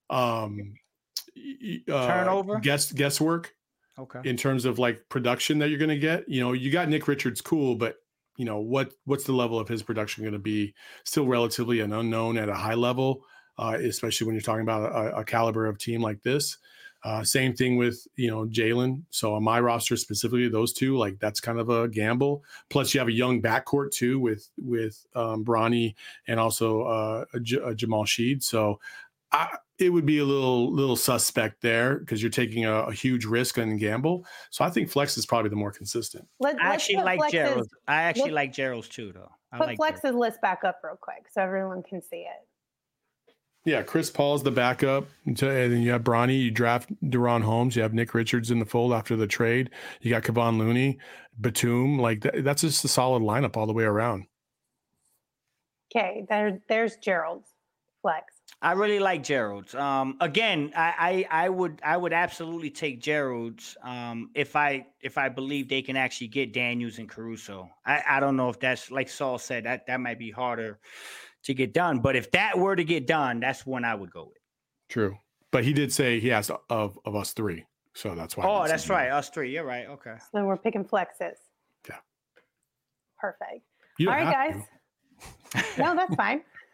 turnover,
guesswork.
Okay.
In terms of like production that you're going to get, you got Nick Richards, cool, but what's the level of his production going to be? Still relatively an unknown at a high level, especially when you're talking about a caliber of team like this. Same thing with, Jalen. So on my roster specifically, those two, like that's kind of a gamble. Plus you have a young backcourt too with Bronny and also Jamal Sheed. So it would be a little suspect there because you're taking a huge risk and gamble. So I think Flex is probably the more consistent.
I actually like Gerald. I actually like Gerald's too, though.
Put Flex's list back up real quick so everyone can see it.
Yeah, Chris Paul's the backup. And then you have Bronny. You draft De'Ron Holmes. You have Nick Richards in the fold after the trade. You got Kevon Looney, Batum. Like that's just a solid lineup all the way around.
Okay, there's Gerald's Flex.
I really like Gerald's. Again, I would absolutely take Gerald's if I believe they can actually get Daniels and Caruso. I don't know if that's, like Saul said, that might be harder to get done. But if that were to get done, that's one I would go with.
True. But he did say he asked of us three. So that's why.
Oh, that's right. Us three. You're right. Okay.
So then we're picking Flexes.
Yeah.
Perfect.
All
right, guys. No, that's fine.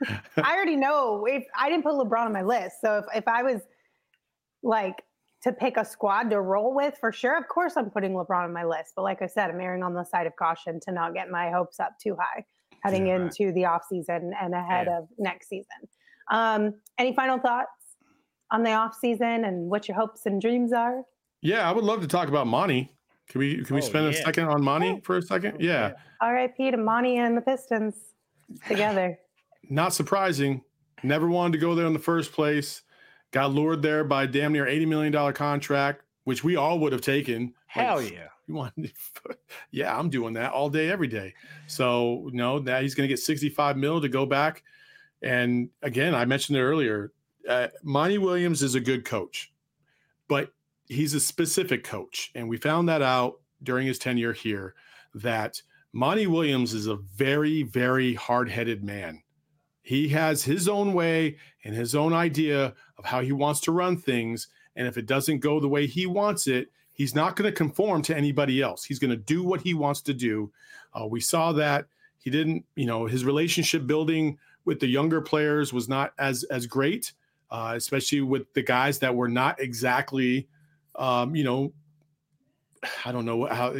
I already know if I didn't put LeBron on my list. So if I was like to pick a squad to roll with, for sure, of course I'm putting LeBron on my list. But like I said, I'm erring on the side of caution to not get my hopes up too high heading into the offseason and ahead of next season. Any final thoughts on the offseason and what your hopes and dreams are?
Yeah, I would love to talk about Monty. Can we spend a second on Monty for a second? Yeah.
R.I.P. to Monty and the Pistons together.
Not surprising. Never wanted to go there in the first place. Got lured there by damn near $80 million contract, which we all would have taken.
Hell yeah.
You want? Yeah, I'm doing that all day, every day. So now he's going to get $65 million to go back. And again, I mentioned it earlier. Monty Williams is a good coach, but he's a specific coach. And we found that out during his tenure here, that Monty Williams is a very, very hard-headed man. He has his own way and his own idea of how he wants to run things. And if it doesn't go the way he wants it, he's not going to conform to anybody else. He's going to do what he wants to do. We saw that he didn't, his relationship building with the younger players was not as great, especially with the guys that were not exactly, I don't know how,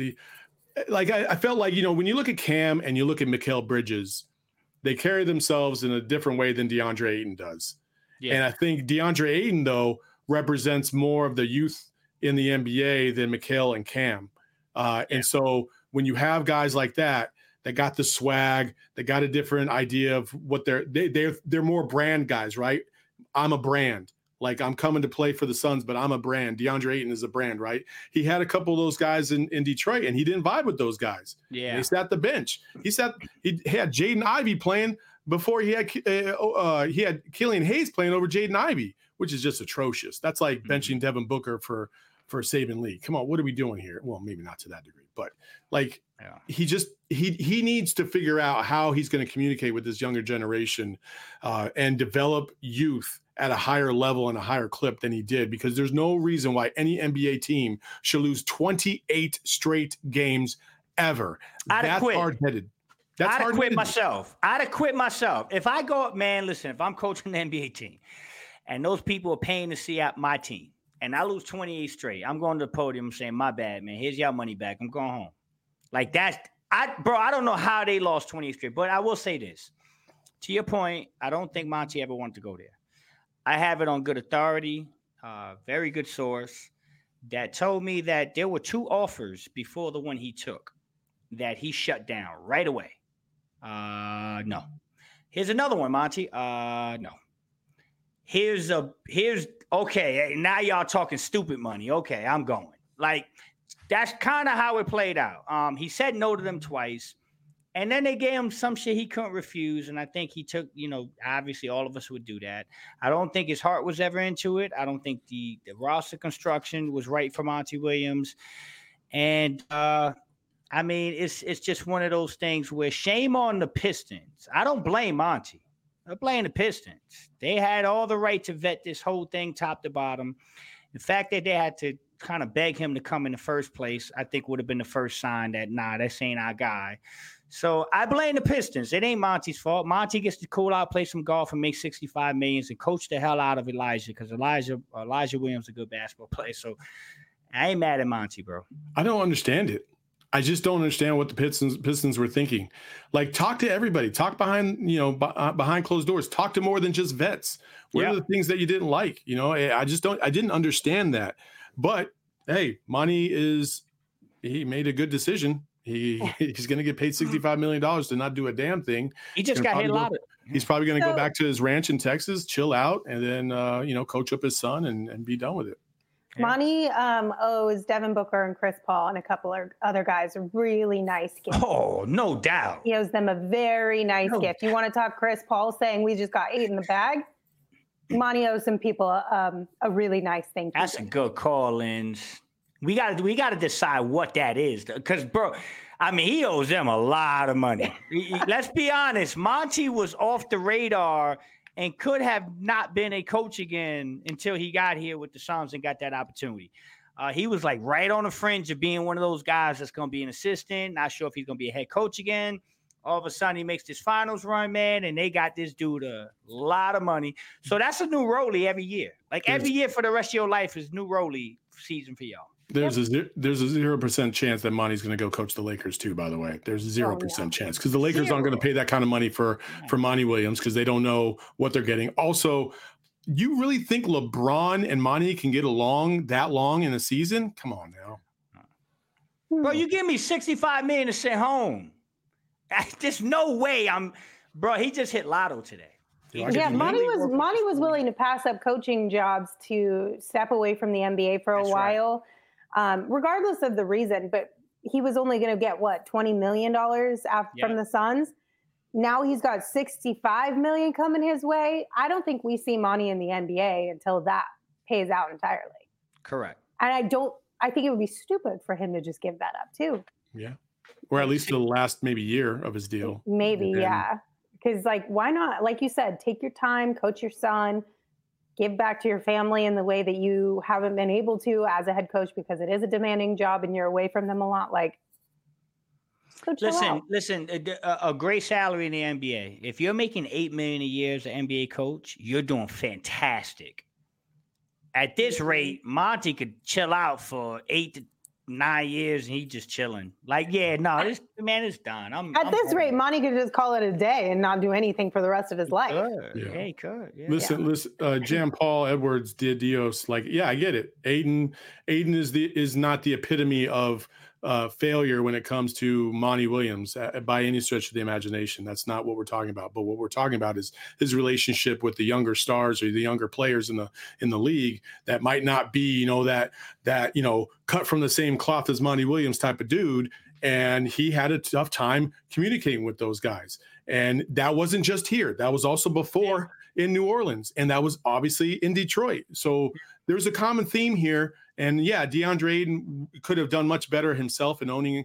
I felt like, when you look at Cam and you look at Mikal Bridges, they carry themselves in a different way than DeAndre Ayton does. Yeah. And I think DeAndre Ayton, though, represents more of the youth in the NBA than Mikal and Cam. And so when you have guys like that got the swag, they got a different idea of what they're more brand guys, right? I'm a brand. Like, I'm coming to play for the Suns, but I'm a brand. DeAndre Ayton is a brand, right? He had a couple of those guys in Detroit, and he didn't vibe with those guys. Yeah, he sat the bench. He had Jaden Ivey playing before he had Killian Hayes playing over Jaden Ivey, which is just atrocious. That's like benching Devin Booker for Saban Lee. Come on, what are we doing here? Well, maybe not to that degree, but he needs to figure out how he's going to communicate with this younger generation and develop youth at a higher level and a higher clip than he did, because there's no reason why any NBA team should lose 28 straight games ever. That's hard-headed.
I'd have quit myself. I'd have quit myself. If I go up, man, listen, if I'm coaching an NBA team and those people are paying to see out my team and I lose 28 straight, I'm going to the podium saying, my bad, man. Here's your money back. I'm going home. Like I don't know how they lost 28 straight, but I will say this. To your point, I don't think Monty ever wanted to go there. I have it on good authority, very good source, that told me that there were 2 offers before the one he took that he shut down right away. No. Here's another one, Monty. No. Here's okay. Now y'all talking stupid money. Okay, I'm going. Like, that's kind of how it played out. He said no to them twice. And then they gave him some shit he couldn't refuse. And I think he took, obviously all of us would do that. I don't think his heart was ever into it. I don't think the roster construction was right for Monty Williams. And, it's just one of those things where shame on the Pistons. I don't blame Monty. I blame the Pistons. They had all the right to vet this whole thing top to bottom. The fact that they had to kind of beg him to come in the first place, I think would have been the first sign that, this ain't our guy. So I blame the Pistons. It ain't Monty's fault. Monty gets to cool out, play some golf, and make $65 million and coach the hell out of Elijah, because Elijah Williams is a good basketball player. So I ain't mad at Monty, bro.
I don't understand it. I just don't understand what the Pistons were thinking. Like, talk to everybody. Talk behind closed doors. Talk to more than just vets. What are the things that you didn't like? I didn't understand that. But hey, Monty he made a good decision. He's going to get paid $65 million to not do a damn thing.
He just got hit a lot.
He's probably going to go back to his ranch in Texas, chill out, and then coach up his son and be done with it.
Monty owes Devin Booker and Chris Paul and a couple of other guys a really nice gift.
Oh, no doubt.
He owes them a very nice gift. You want to talk Chris Paul saying we just got 8 in the bag? Monty owes some people a really nice thing.
That's a good call, Lynch. We got to decide what that is, because, bro, he owes them a lot of money. Let's be honest. Monty was off the radar and could have not been a coach again until he got here with the Suns and got that opportunity. He was like right on the fringe of being one of those guys that's going to be an assistant. Not sure if he's going to be a head coach again. All of a sudden, he makes this finals run, man, and they got this dude a lot of money. So that's a new Roley every year. Like every year for the rest of your life is new Roley season for y'all.
There's a 0% chance that Monty's going to go coach the Lakers too. By the way, there's a 0% chance because the Lakers aren't going to pay that kind of money for Monty Williams because they don't know what they're getting. Also, you really think LeBron and Monty can get along that long in a season? Come on now,
bro. You give me $65 million to sit home. There's no way bro. He just hit lotto today.
Yeah, Monty was willing to pass up coaching jobs to step away from the NBA for a while. Right. Regardless of the reason, but he was only going to get $20 million from the Suns. Now he's got $65 million coming his way. I don't think we see Monty in the NBA until that pays out entirely.
Correct.
And I think it would be stupid for him to just give that up too.
Yeah. Or at least the last maybe year of his deal.
Maybe, yeah. Because why not? Like you said, take your time, coach your son, give back to your family in the way that you haven't been able to as a head coach because it is a demanding job and you're away from them a lot.
Listen, a great salary in the NBA. If you're making $8 million a year as an NBA coach, you're doing fantastic. At this rate, Monty could chill out for 8 to 9 years and he's just chilling. This man is done.
At this rate, Monty could just call it a day and not do anything for the rest of his life.
Yeah, he could. Yeah.
Listen, Jan Paul Edwards de Dios. I get it. Aiden is not the epitome of failure when it comes to Monty Williams by any stretch of the imagination. That's not what we're talking about. But what we're talking about is his relationship with the younger stars or the younger players in the league that might not be, that cut from the same cloth as Monty Williams type of dude. And he had a tough time communicating with those guys. And that wasn't just here. That was also before in New Orleans. And that was obviously in Detroit. So there's a common theme here. And DeAndre Ayton could have done much better himself in owning,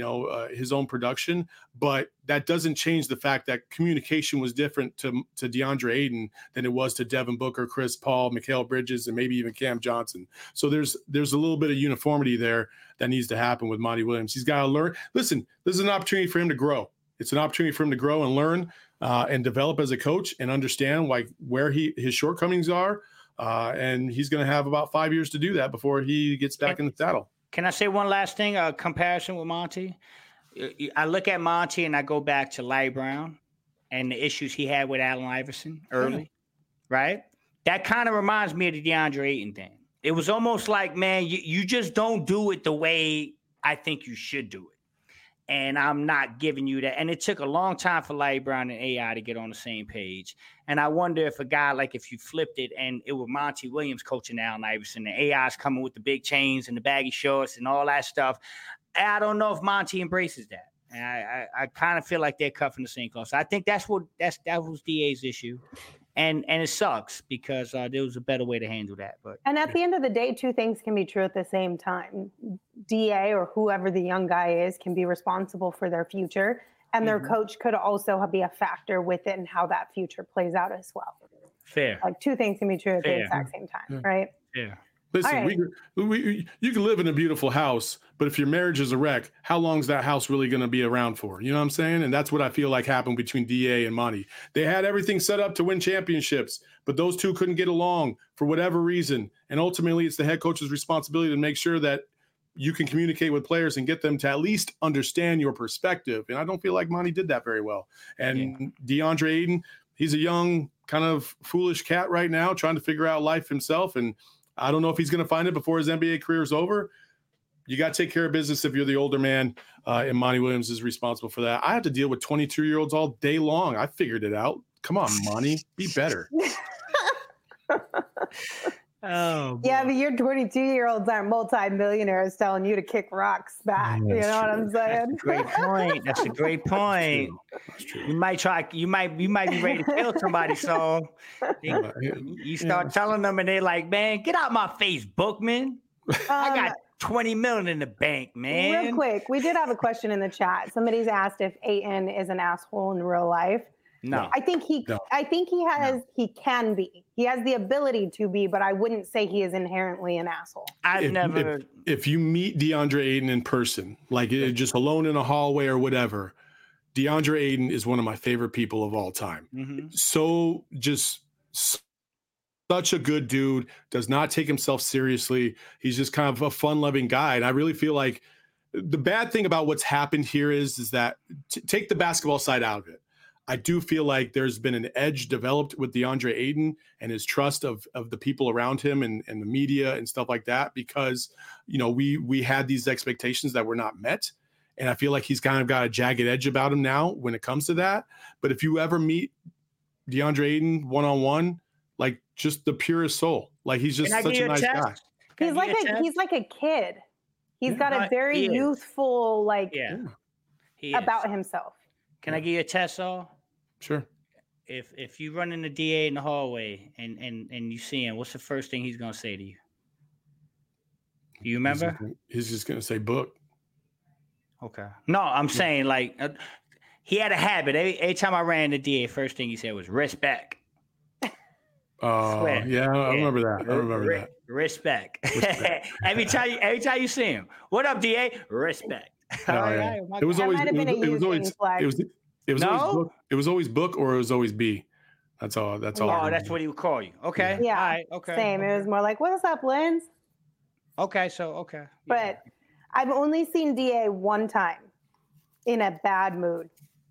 his own production. But that doesn't change the fact that communication was different to DeAndre Ayton than it was to Devin Booker, Chris Paul, Mikal Bridges, and maybe even Cam Johnson. So there's a little bit of uniformity there that needs to happen with Monty Williams. He's got to learn. Listen, this is an opportunity for him to grow. It's an opportunity for him to grow and learn and develop as a coach and understand where his shortcomings are. And he's going to have about 5 years to do that before he gets back in the saddle.
Can I say one last thing? A comparison with Monty. I look at Monty and I go back to Larry Brown and the issues he had with Allen Iverson early, right? That kind of reminds me of the DeAndre Ayton thing. It was almost like, man, you just don't do it the way I think you should do it. And I'm not giving you that. And it took a long time for Larry Brown and AI to get on the same page. And I wonder if a guy if you flipped it and it was Monty Williams coaching Allen Iverson, and AI's coming with the big chains and the baggy shorts and all that stuff. I don't know if Monty embraces that. And I kind of feel like they're cut from the same cloth. So I think that was DA's issue. And it sucks because there was a better way to handle that.
And at the end of the day, two things can be true at the same time. DA or whoever the young guy is can be responsible for their future. And their coach could also be a factor within how that future plays out as well.
Fair.
Two things can be true at the exact same time, right?
Yeah.
Listen, you can live in a beautiful house, but if your marriage is a wreck, how long is that house really going to be around for? You know what I'm saying? And that's what I feel like happened between DA and Monty. They had everything set up to win championships, but those two couldn't get along for whatever reason. And ultimately, it's the head coach's responsibility to make sure that you can communicate with players and get them to at least understand your perspective. And I don't feel like Monty did that very well. And DeAndre Ayton, he's a young, kind of foolish cat right now, trying to figure out life himself. And I don't know if he's going to find it before his NBA career is over. You got to take care of business if you're the older man, and Monty Williams is responsible for that. I have to deal with 22-year-olds all day long. I figured it out. Come on, Monty, be better.
Oh,
yeah, but your 22-year-olds aren't multi-millionaires telling you to kick rocks back. You know what I'm saying?
That's a great point. That's true. You might be ready to kill somebody. So you start telling them, and they're like, "Man, get out my face, Bookman. I got 20 million in the bank, man."
Real quick, we did have a question in the chat. Somebody's asked if Ayton is an asshole in real life.
No,
I think he can be. He has the ability to be, but I wouldn't say he is inherently an asshole.
If you meet DeAndre Ayton in person, just alone in a hallway or whatever, DeAndre Ayton is one of my favorite people of all time.
Mm-hmm.
So just such a good dude, does not take himself seriously. He's just kind of a fun-loving guy. And I really feel like the bad thing about what's happened here is that take the basketball side out of it. I do feel like there's been an edge developed with DeAndre Ayton and his trust of the people around him and the media and stuff like that, because, you know, we had these expectations that were not met. And I feel like he's kind of got a jagged edge about him now when it comes to that. But if you ever meet DeAndre Ayton one-on-one, like just the purest soul, like he's just such a nice guy.
He's like a kid. He's got a very youthful, like, about himself.
Can I give you a test, Saul?
Sure.
If you run into DA in the hallway and you see him, what's the first thing he's gonna say to you? Do you remember?
He's just gonna say book.
Okay. No, I'm saying like he had a habit. Every time I ran into DA, first thing he said was respect.
Yeah, I remember that.
Respect. every time you see him, what up, DA? Respect.
It was always book or it was always B. That's all.
Oh, that's what he would call you. Okay.
Yeah.
All right. Okay.
Same. It was more like, "What's up, Linz?"
Okay. Okay.
But I've only seen DA one time in a bad mood.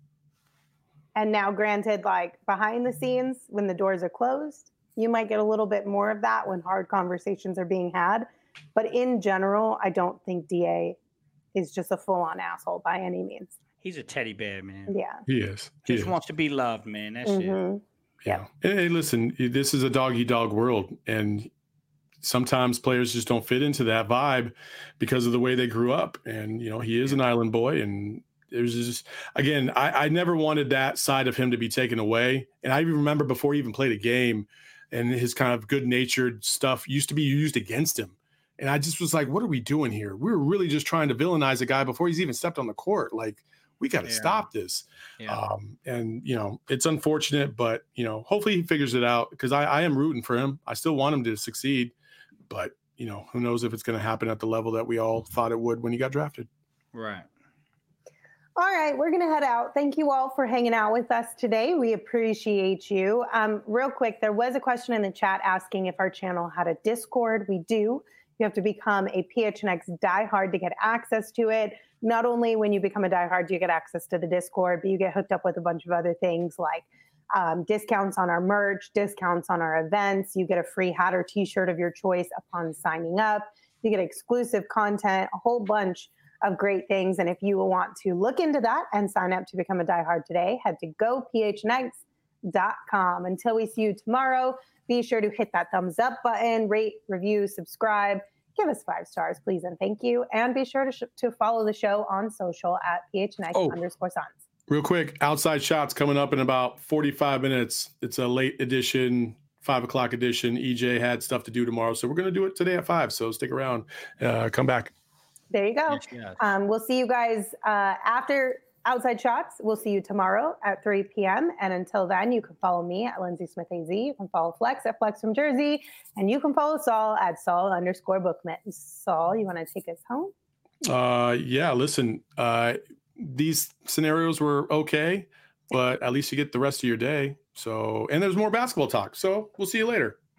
And now, granted, like behind the scenes, when the doors are closed, you might get a little bit more of that when hard conversations are being had. But in general, I don't think DA is just a full-on asshole by any means.
He's a teddy bear, man.
Yeah.
He is.
Just wants to be loved, man. That's it.
Yeah. Hey, listen, this is a dog-eat-dog world. And sometimes players just don't fit into that vibe because of the way they grew up. And, you know, he is an island boy. And there's just, again, I never wanted that side of him to be taken away. And I even remember before he even played a game and his kind of good-natured stuff used to be used against him. And I just was like, what are we doing here? We're really just trying to villainize a guy before he's even stepped on the court. Like, we got to stop this. Yeah. And, you know, it's unfortunate, but, you know, hopefully he figures it out because I am rooting for him. I still want him to succeed. But, you know, who knows if it's going to happen at the level that we all thought it would when he got drafted.
Right.
All right, we're going to head out. Thank you all for hanging out with us today. We appreciate you. Real quick, there was a question in the chat asking if our channel had a Discord. We do. You have to become a PHNX diehard to get access to it. Not only when you become a diehard do you get access to the Discord, but you get hooked up with a bunch of other things like discounts on our merch, discounts on our events. You get a free hat or t-shirt of your choice upon signing up. You get exclusive content, a whole bunch of great things. And if you want to look into that and sign up to become a diehard today, head to gophnx.com. Until we see you tomorrow, be sure to hit that thumbs up button, rate, review, subscribe, give us 5 stars, please, and thank you. And be sure to follow the show on social at PHNX_Suns.
Real quick, Outside Shots coming up in about 45 minutes. It's a late edition, 5 o'clock edition. EJ had stuff to do tomorrow, so we're going to do it today at 5. So stick around. Come back. There you go. Yes. We'll see you guys after Outside Shots. We'll see you tomorrow at 3 p.m. And until then, you can follow me at Lindsay Smith AZ. You can follow Flex at Flex from Jersey. And you can follow Saul at Saul_Bookman. Saul, you want to take us home? Yeah, listen, these scenarios were okay, but at least you get the rest of your day. So, and there's more basketball talk. So we'll see you later.